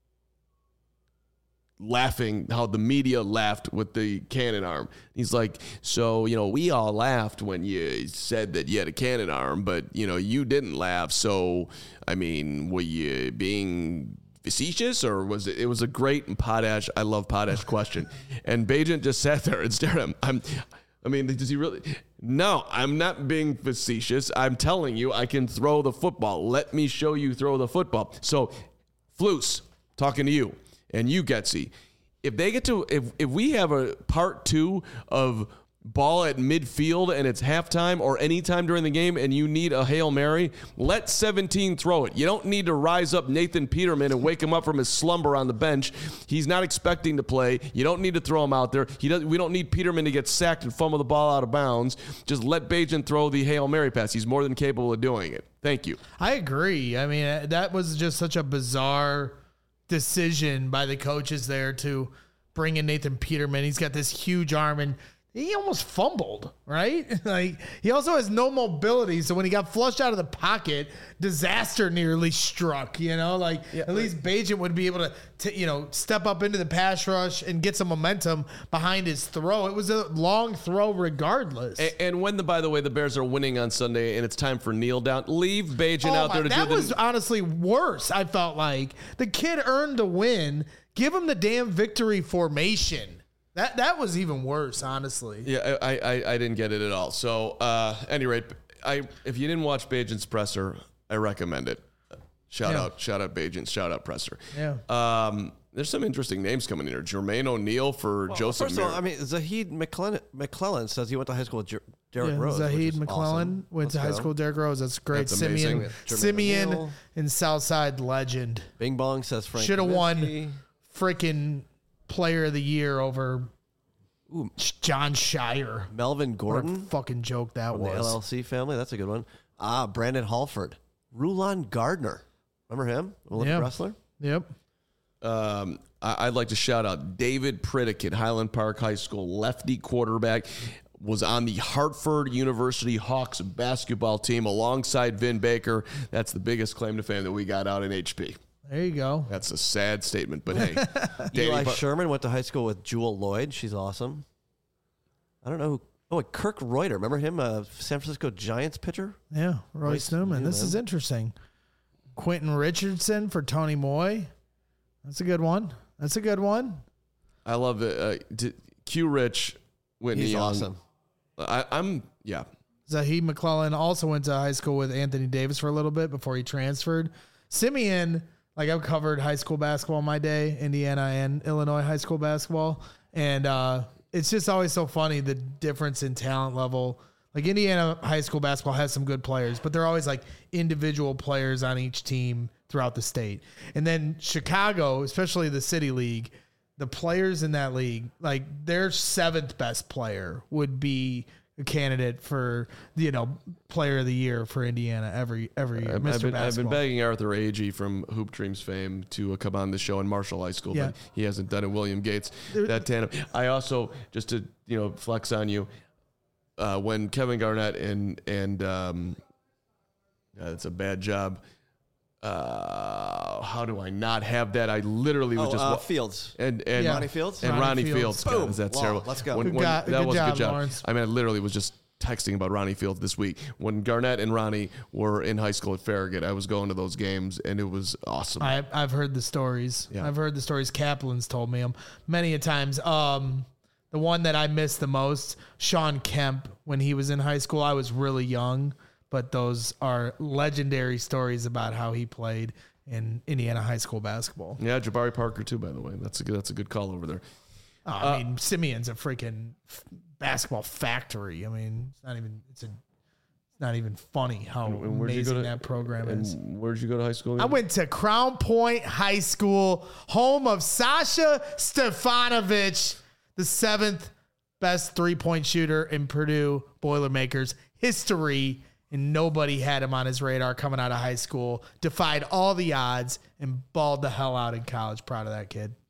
laughing, how the media laughed with the cannon arm. He's like, so, you know, we all laughed when you said that you had a cannon arm, but, you know, you didn't laugh. So, I mean, were you being facetious, or was it, it was a great Potash, I love Potash question. And Bajan just sat there and stared at him. I'm, I mean, does he really? No, I'm not being facetious. I'm telling you, I can throw the football. Let me show you throw the football. So, Flus, talking to you. And you, Getsy, if they get to, if, if we have a part two of ball at midfield and it's halftime or anytime during the game and you need a Hail Mary, let seventeen throw it. You don't need to rise up Nathan Peterman and wake him up from his slumber on the bench. He's not expecting to play. You don't need to throw him out there. He doesn't. We don't need Peterman to get sacked and fumble the ball out of bounds. Just let Bajan throw the Hail Mary pass. He's more than capable of doing it. Thank you. I agree. I mean, that was just such a bizarre decision by the coaches there to bring in Nathan Peterman. He's got this huge arm and he almost fumbled, right? Like, he also has no mobility. So when he got flushed out of the pocket, disaster nearly struck, you know, like yeah, at least Bajan would be able to, to, you know, step up into the pass rush and get some momentum behind his throw. It was a long throw regardless. And, and when the, by the way, the Bears are winning on Sunday and it's time for kneel down, leave Bajan oh out my, there to that do the. That was honestly worse. I felt like the kid earned the win. Give him the damn victory formation. That that was even worse, honestly. Yeah, I I, I didn't get it at all. So, uh, any rate, I if you didn't watch Bajan's presser, I recommend it. Shout yeah. out, shout out Bajan, shout out presser. Yeah. Um, there's some interesting names coming in here. Jermaine O'Neal for well, Joseph. First of all, I mean, Zahid McClellan, McClellan says he went to high school with Jer- Derrick yeah, Rose. Zahid McClellan awesome. went Let's to high go. school with Derrick Rose. That's great. That's Simeon, amazing. Simeon O'Neal. and Southside legend. Bing Bong says Frank Should have Kaminsky. won freaking player of the year over Ooh. John Shire. Melvin What a Gordon fucking joke that from the L was. L C family. That's a good one. Ah, Brandon Halford. Rulon Gardner. Remember him? Olympic Yeah. wrestler? Yep. Um, I, I'd like to shout out David Pritikin, Highland Park High School, lefty quarterback, was on the Hartford University Hawks basketball team alongside Vin Baker. That's the biggest claim to fame that we got out in H P. There you go. That's a sad statement, but hey. Eli Danny, Sherman went to high school with Jewel Lloyd. She's awesome. I don't know who. Oh, and Kirk Reuter. Remember him? Uh, San Francisco Giants pitcher? Yeah, Royce Royce Newman. This Newman. is interesting. Quentin Richardson for Tony Moy. That's a good one. That's a good one. I love it. Uh, d- Q Rich, Whitney He's Young. awesome. I, I'm, yeah. Zahid McClellan also went to high school with Anthony Davis for a little bit before he transferred. Simeon, like I've covered high school basketball in my day, Indiana and Illinois high school basketball. And uh, it's just always so funny, the difference in talent level. Like Indiana high school basketball has some good players, but they're always like individual players on each team throughout the state. And then Chicago, especially the City League, the players in that league, like their seventh best player would be a candidate for, you know, player of the year for Indiana every every year. I've, Mister I've been, I've been Basketball. begging Arthur Agee from Hoop Dreams fame to uh, come on the show in Marshall High School, Yeah. but he hasn't done it. William Gates, that tandem. I also, just to, you know, flex on you, uh, when Kevin Garnett and, and um, uh, it's a bad job. Uh, how do I not have that? I literally was Oh, just uh, wa- Fields. and and Yeah. Ronnie Fields? and Ronnie Ronnie Fields. Fields. God, Boom. is that Wow, terrible? let's go. When, Good when- go- that good was a job, good job. Lawrence. I mean, I literally was just texting about Ronnie Fields this week. When Garnett and Ronnie were in high school at Farragut, I was going to those games, and it was awesome. I, I've heard the stories. Yeah. I've heard the stories. Kaplan's told me them many a times. Um, the one that I missed the most, Sean Kemp, when he was in high school. I was really young, but those are legendary stories about how he played in Indiana high school basketball. Yeah, Jabari Parker too. By the way, that's a good, that's a good call over there. Oh, I mean, Simeon's a freaking f- basketball factory. I mean, it's not even it's a it's not even funny how And where'd you go amazing to- that program And is. where'd you go to high school? I again? went to Crown Point High School, home of Sasha Stefanovic, the seventh best three-point shooter in Purdue Boilermakers history, and nobody had him on his radar coming out of high school. Defied all the odds and balled the hell out in college. Proud of that kid.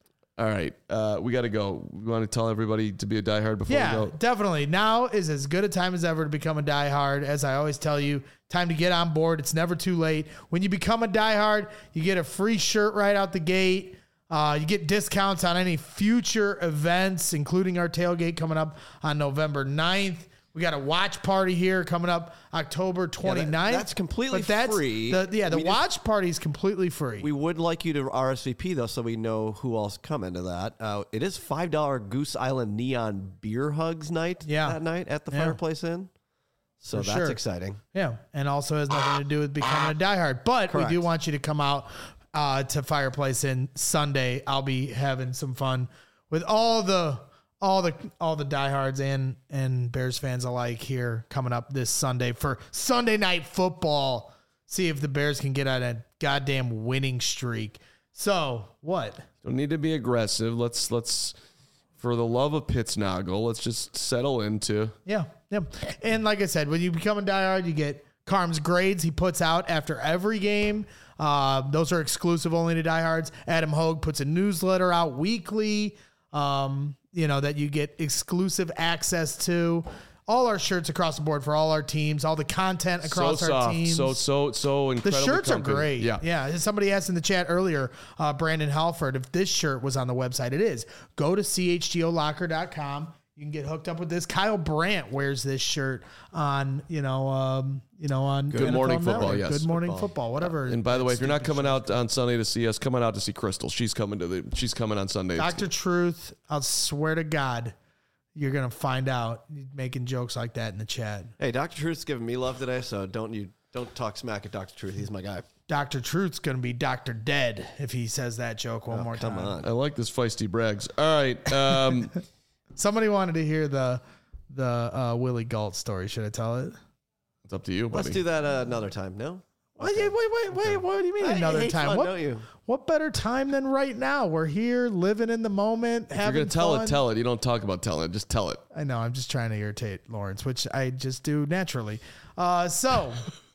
All right, uh, we got to go. We want to tell everybody to be a diehard before Yeah, we go. definitely. Now is as good a time as ever to become a diehard. As I always tell you, time to get on board. It's never too late. When you become a diehard, you get a free shirt right out the gate. Uh, you get discounts on any future events, including our tailgate coming up on November ninth. We got a watch party here coming up October twenty-ninth. Yeah, that- that's completely But that's free. The, yeah, the I mean, it's- watch party is completely free. We would like you to R S V P, though, so we know who else come into that. Uh, it is five dollars Goose Island Neon Beer Hugs night Yeah. that night at the Yeah. Fireplace Inn. So For that's sure. exciting. Yeah, and also has nothing to do with becoming a diehard. But Correct. we do want you to come out uh, to Fireplace Inn Sunday. I'll be having some fun with all the all the all the diehards and and Bears fans alike here coming up this Sunday for Sunday Night Football. See if the Bears can get on a goddamn winning streak. So what? Don't need to be aggressive. Let's let's for the love of Pittsnoggle, let's just settle into. Yeah, yeah. And like I said, when you become a diehard, you get Carm's grades he puts out after every game. Uh, those are exclusive only to diehards. Adam Hogue puts a newsletter out weekly, um, you know, that you get exclusive access to. All our shirts across the board for all our teams, all the content across so our soft, teams. so so so The incredibly shirts are comfy. great. Yeah, Yeah. Somebody asked in the chat earlier, uh, Brandon Halford, if this shirt was on the website. It is. Go to C H G O locker dot com. You can get hooked up with this. Kyle Brandt wears this shirt on, you know, um, you know, on Good N F L Morning Network. Football, yes. Good Morning Football. Football, whatever. And by the way, if you're not Stupid coming shit. out on Sunday to see us, coming out to see Crystal. She's coming to the. She's coming on Sunday. Doctor Truth, I'll swear to God, you're going to find out making jokes like that in the chat. Hey, Doctor Truth's giving me love today, so don't you don't talk smack at Doctor Truth. He's my guy. Doctor Truth's going to be Doctor Dead if he says that joke one more Come time. on. I like this feisty brags. All right. Um, Somebody wanted to hear the the uh, Willie Galt story. Should I tell it? it's up to you, buddy. Let's do that uh, another time. No? Wait, wait, wait, wait. What do you mean I another hate time? fun, what, don't you? what better time than right now? We're here, living in the moment, If you're having gonna tell fun. it, tell it. You don't talk about telling it. Just tell it. I know. I'm just trying to irritate Lawrence, which I just do naturally. Uh, so.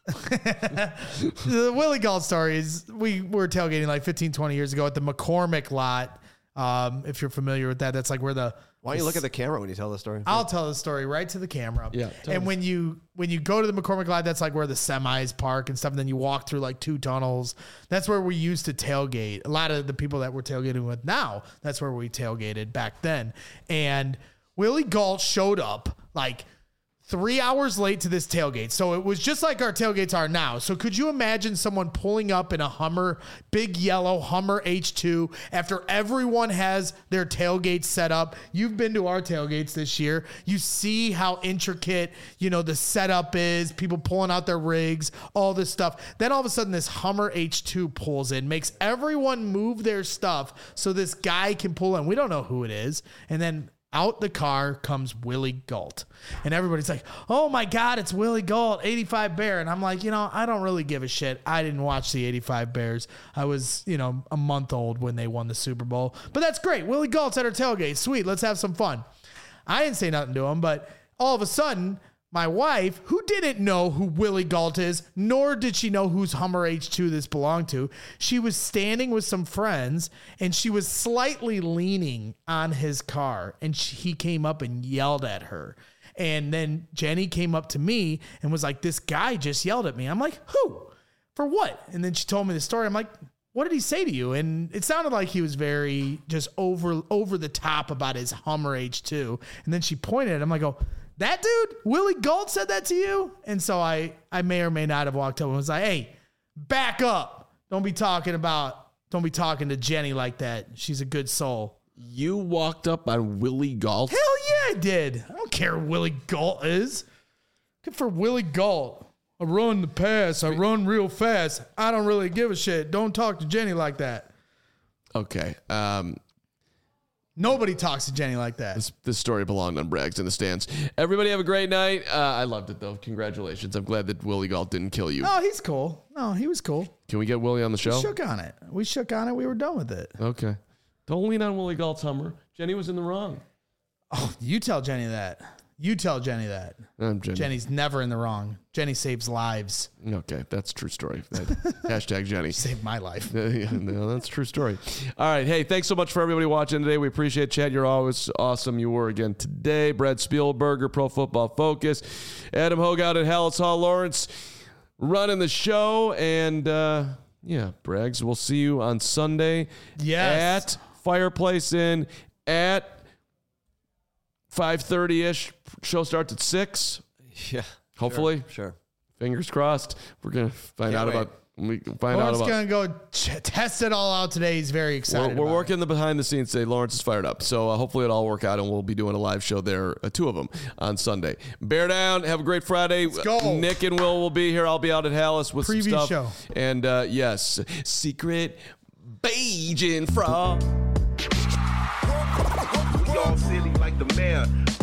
The Willie Galt story is we were tailgating like fifteen, twenty years ago at the McCormick lot. Um, if you're familiar with that, that's like where the Why don't you look at the camera when you tell the story? I'll tell the story right to the camera. Yeah, tell And us. when you when you go to the McCormick lot, that's like where the semis park and stuff. And then you walk through like two tunnels. That's where we used to tailgate. A lot of the people that we're tailgating with now, that's where we tailgated back then. And Willie Galt showed up like three hours late to this tailgate. So it was just like our tailgates are now. So could you imagine someone pulling up in a Hummer, big yellow Hummer H two after everyone has their tailgates set up? You've been to our tailgates this year. You see how intricate, you know, the setup is, people pulling out their rigs, all this stuff. Then all of a sudden this Hummer H two pulls in, makes everyone move their stuff so this guy can pull in. We don't know who it is. And then out the car comes Willie Galt. And everybody's like, oh my God, it's Willie Galt, eighty-five Bear. And I'm like, you know, I don't really give a shit. I didn't watch the eighty-five Bears. I was, you know, a month old when they won the Super Bowl. But that's great. Willie Galt's at our tailgate. Sweet. Let's have some fun. I didn't say nothing to him, but all of a sudden, my wife, who didn't know who Willie Galt is, nor did she know whose Hummer H two this belonged to, she was standing with some friends and she was slightly leaning on his car. And she, he came up and yelled at her. And then Jenny came up to me and was like, this guy just yelled at me. I'm like, who? For what? And then she told me the story. I'm like, what did he say to you? And it sounded like he was very just over over the top about his Hummer H two. And then she pointed at him. I go, that dude, Willie Galt said that to you? And so I, I may or may not have walked up and was like, hey, back up. Don't be talking about, don't be talking to Jenny like that. She's a good soul. You walked up on Willie Galt. Hell yeah, I did. I don't care who Willie Galt is. Good for Willie Galt. I run the pass. I run real fast. I don't really give a shit. Don't talk to Jenny like that. Okay. Um, Nobody talks to Jenny like that. this, this story belonged on Brags in the Stands. Everybody have a great night. Uh, I loved it, though. Congratulations. I'm glad that Willie Galt didn't kill you. Oh, he's cool. No, he was cool. Can we get Willie on the We show? shook on it. We shook on it. We were done with it. Okay. Don't lean on Willie Galt's Hummer. Jenny was in the wrong. Oh, you tell Jenny that. You tell Jenny that. I'm Jenny. Jenny's never in the wrong. Jenny saves lives. Okay, that's a true story. That, hashtag Jenny. Saved my life. Yeah, no, that's a true story. All right. Hey, thanks so much for everybody watching today. We appreciate it. Chad, you're always awesome. You were again today. Brad Spielberger, Pro Football Focus. Adam Hogout and Hallis Hall Lawrence running the show. And, uh, yeah, Braggs, we'll see you on Sunday Yes. at Fireplace Inn at five thirty-ish. Show starts at six. Yeah. Hopefully. Sure. sure. Fingers crossed. We're going to find Can't out wait. about we can find out Lawrence about going to go ch- test it all out today. He's very We're, excited. we're about working the behind the scenes today. Lawrence is fired up. So uh, hopefully it'll all work out and we'll be doing a live show there, uh, two of them, on Sunday. Bear down. Have a great Friday. Let's go. Nick and Will will be here. I'll be out at Hallis with Preview some stuff. show. And uh, yes, secret Bajan frog. We all silly like the mayor.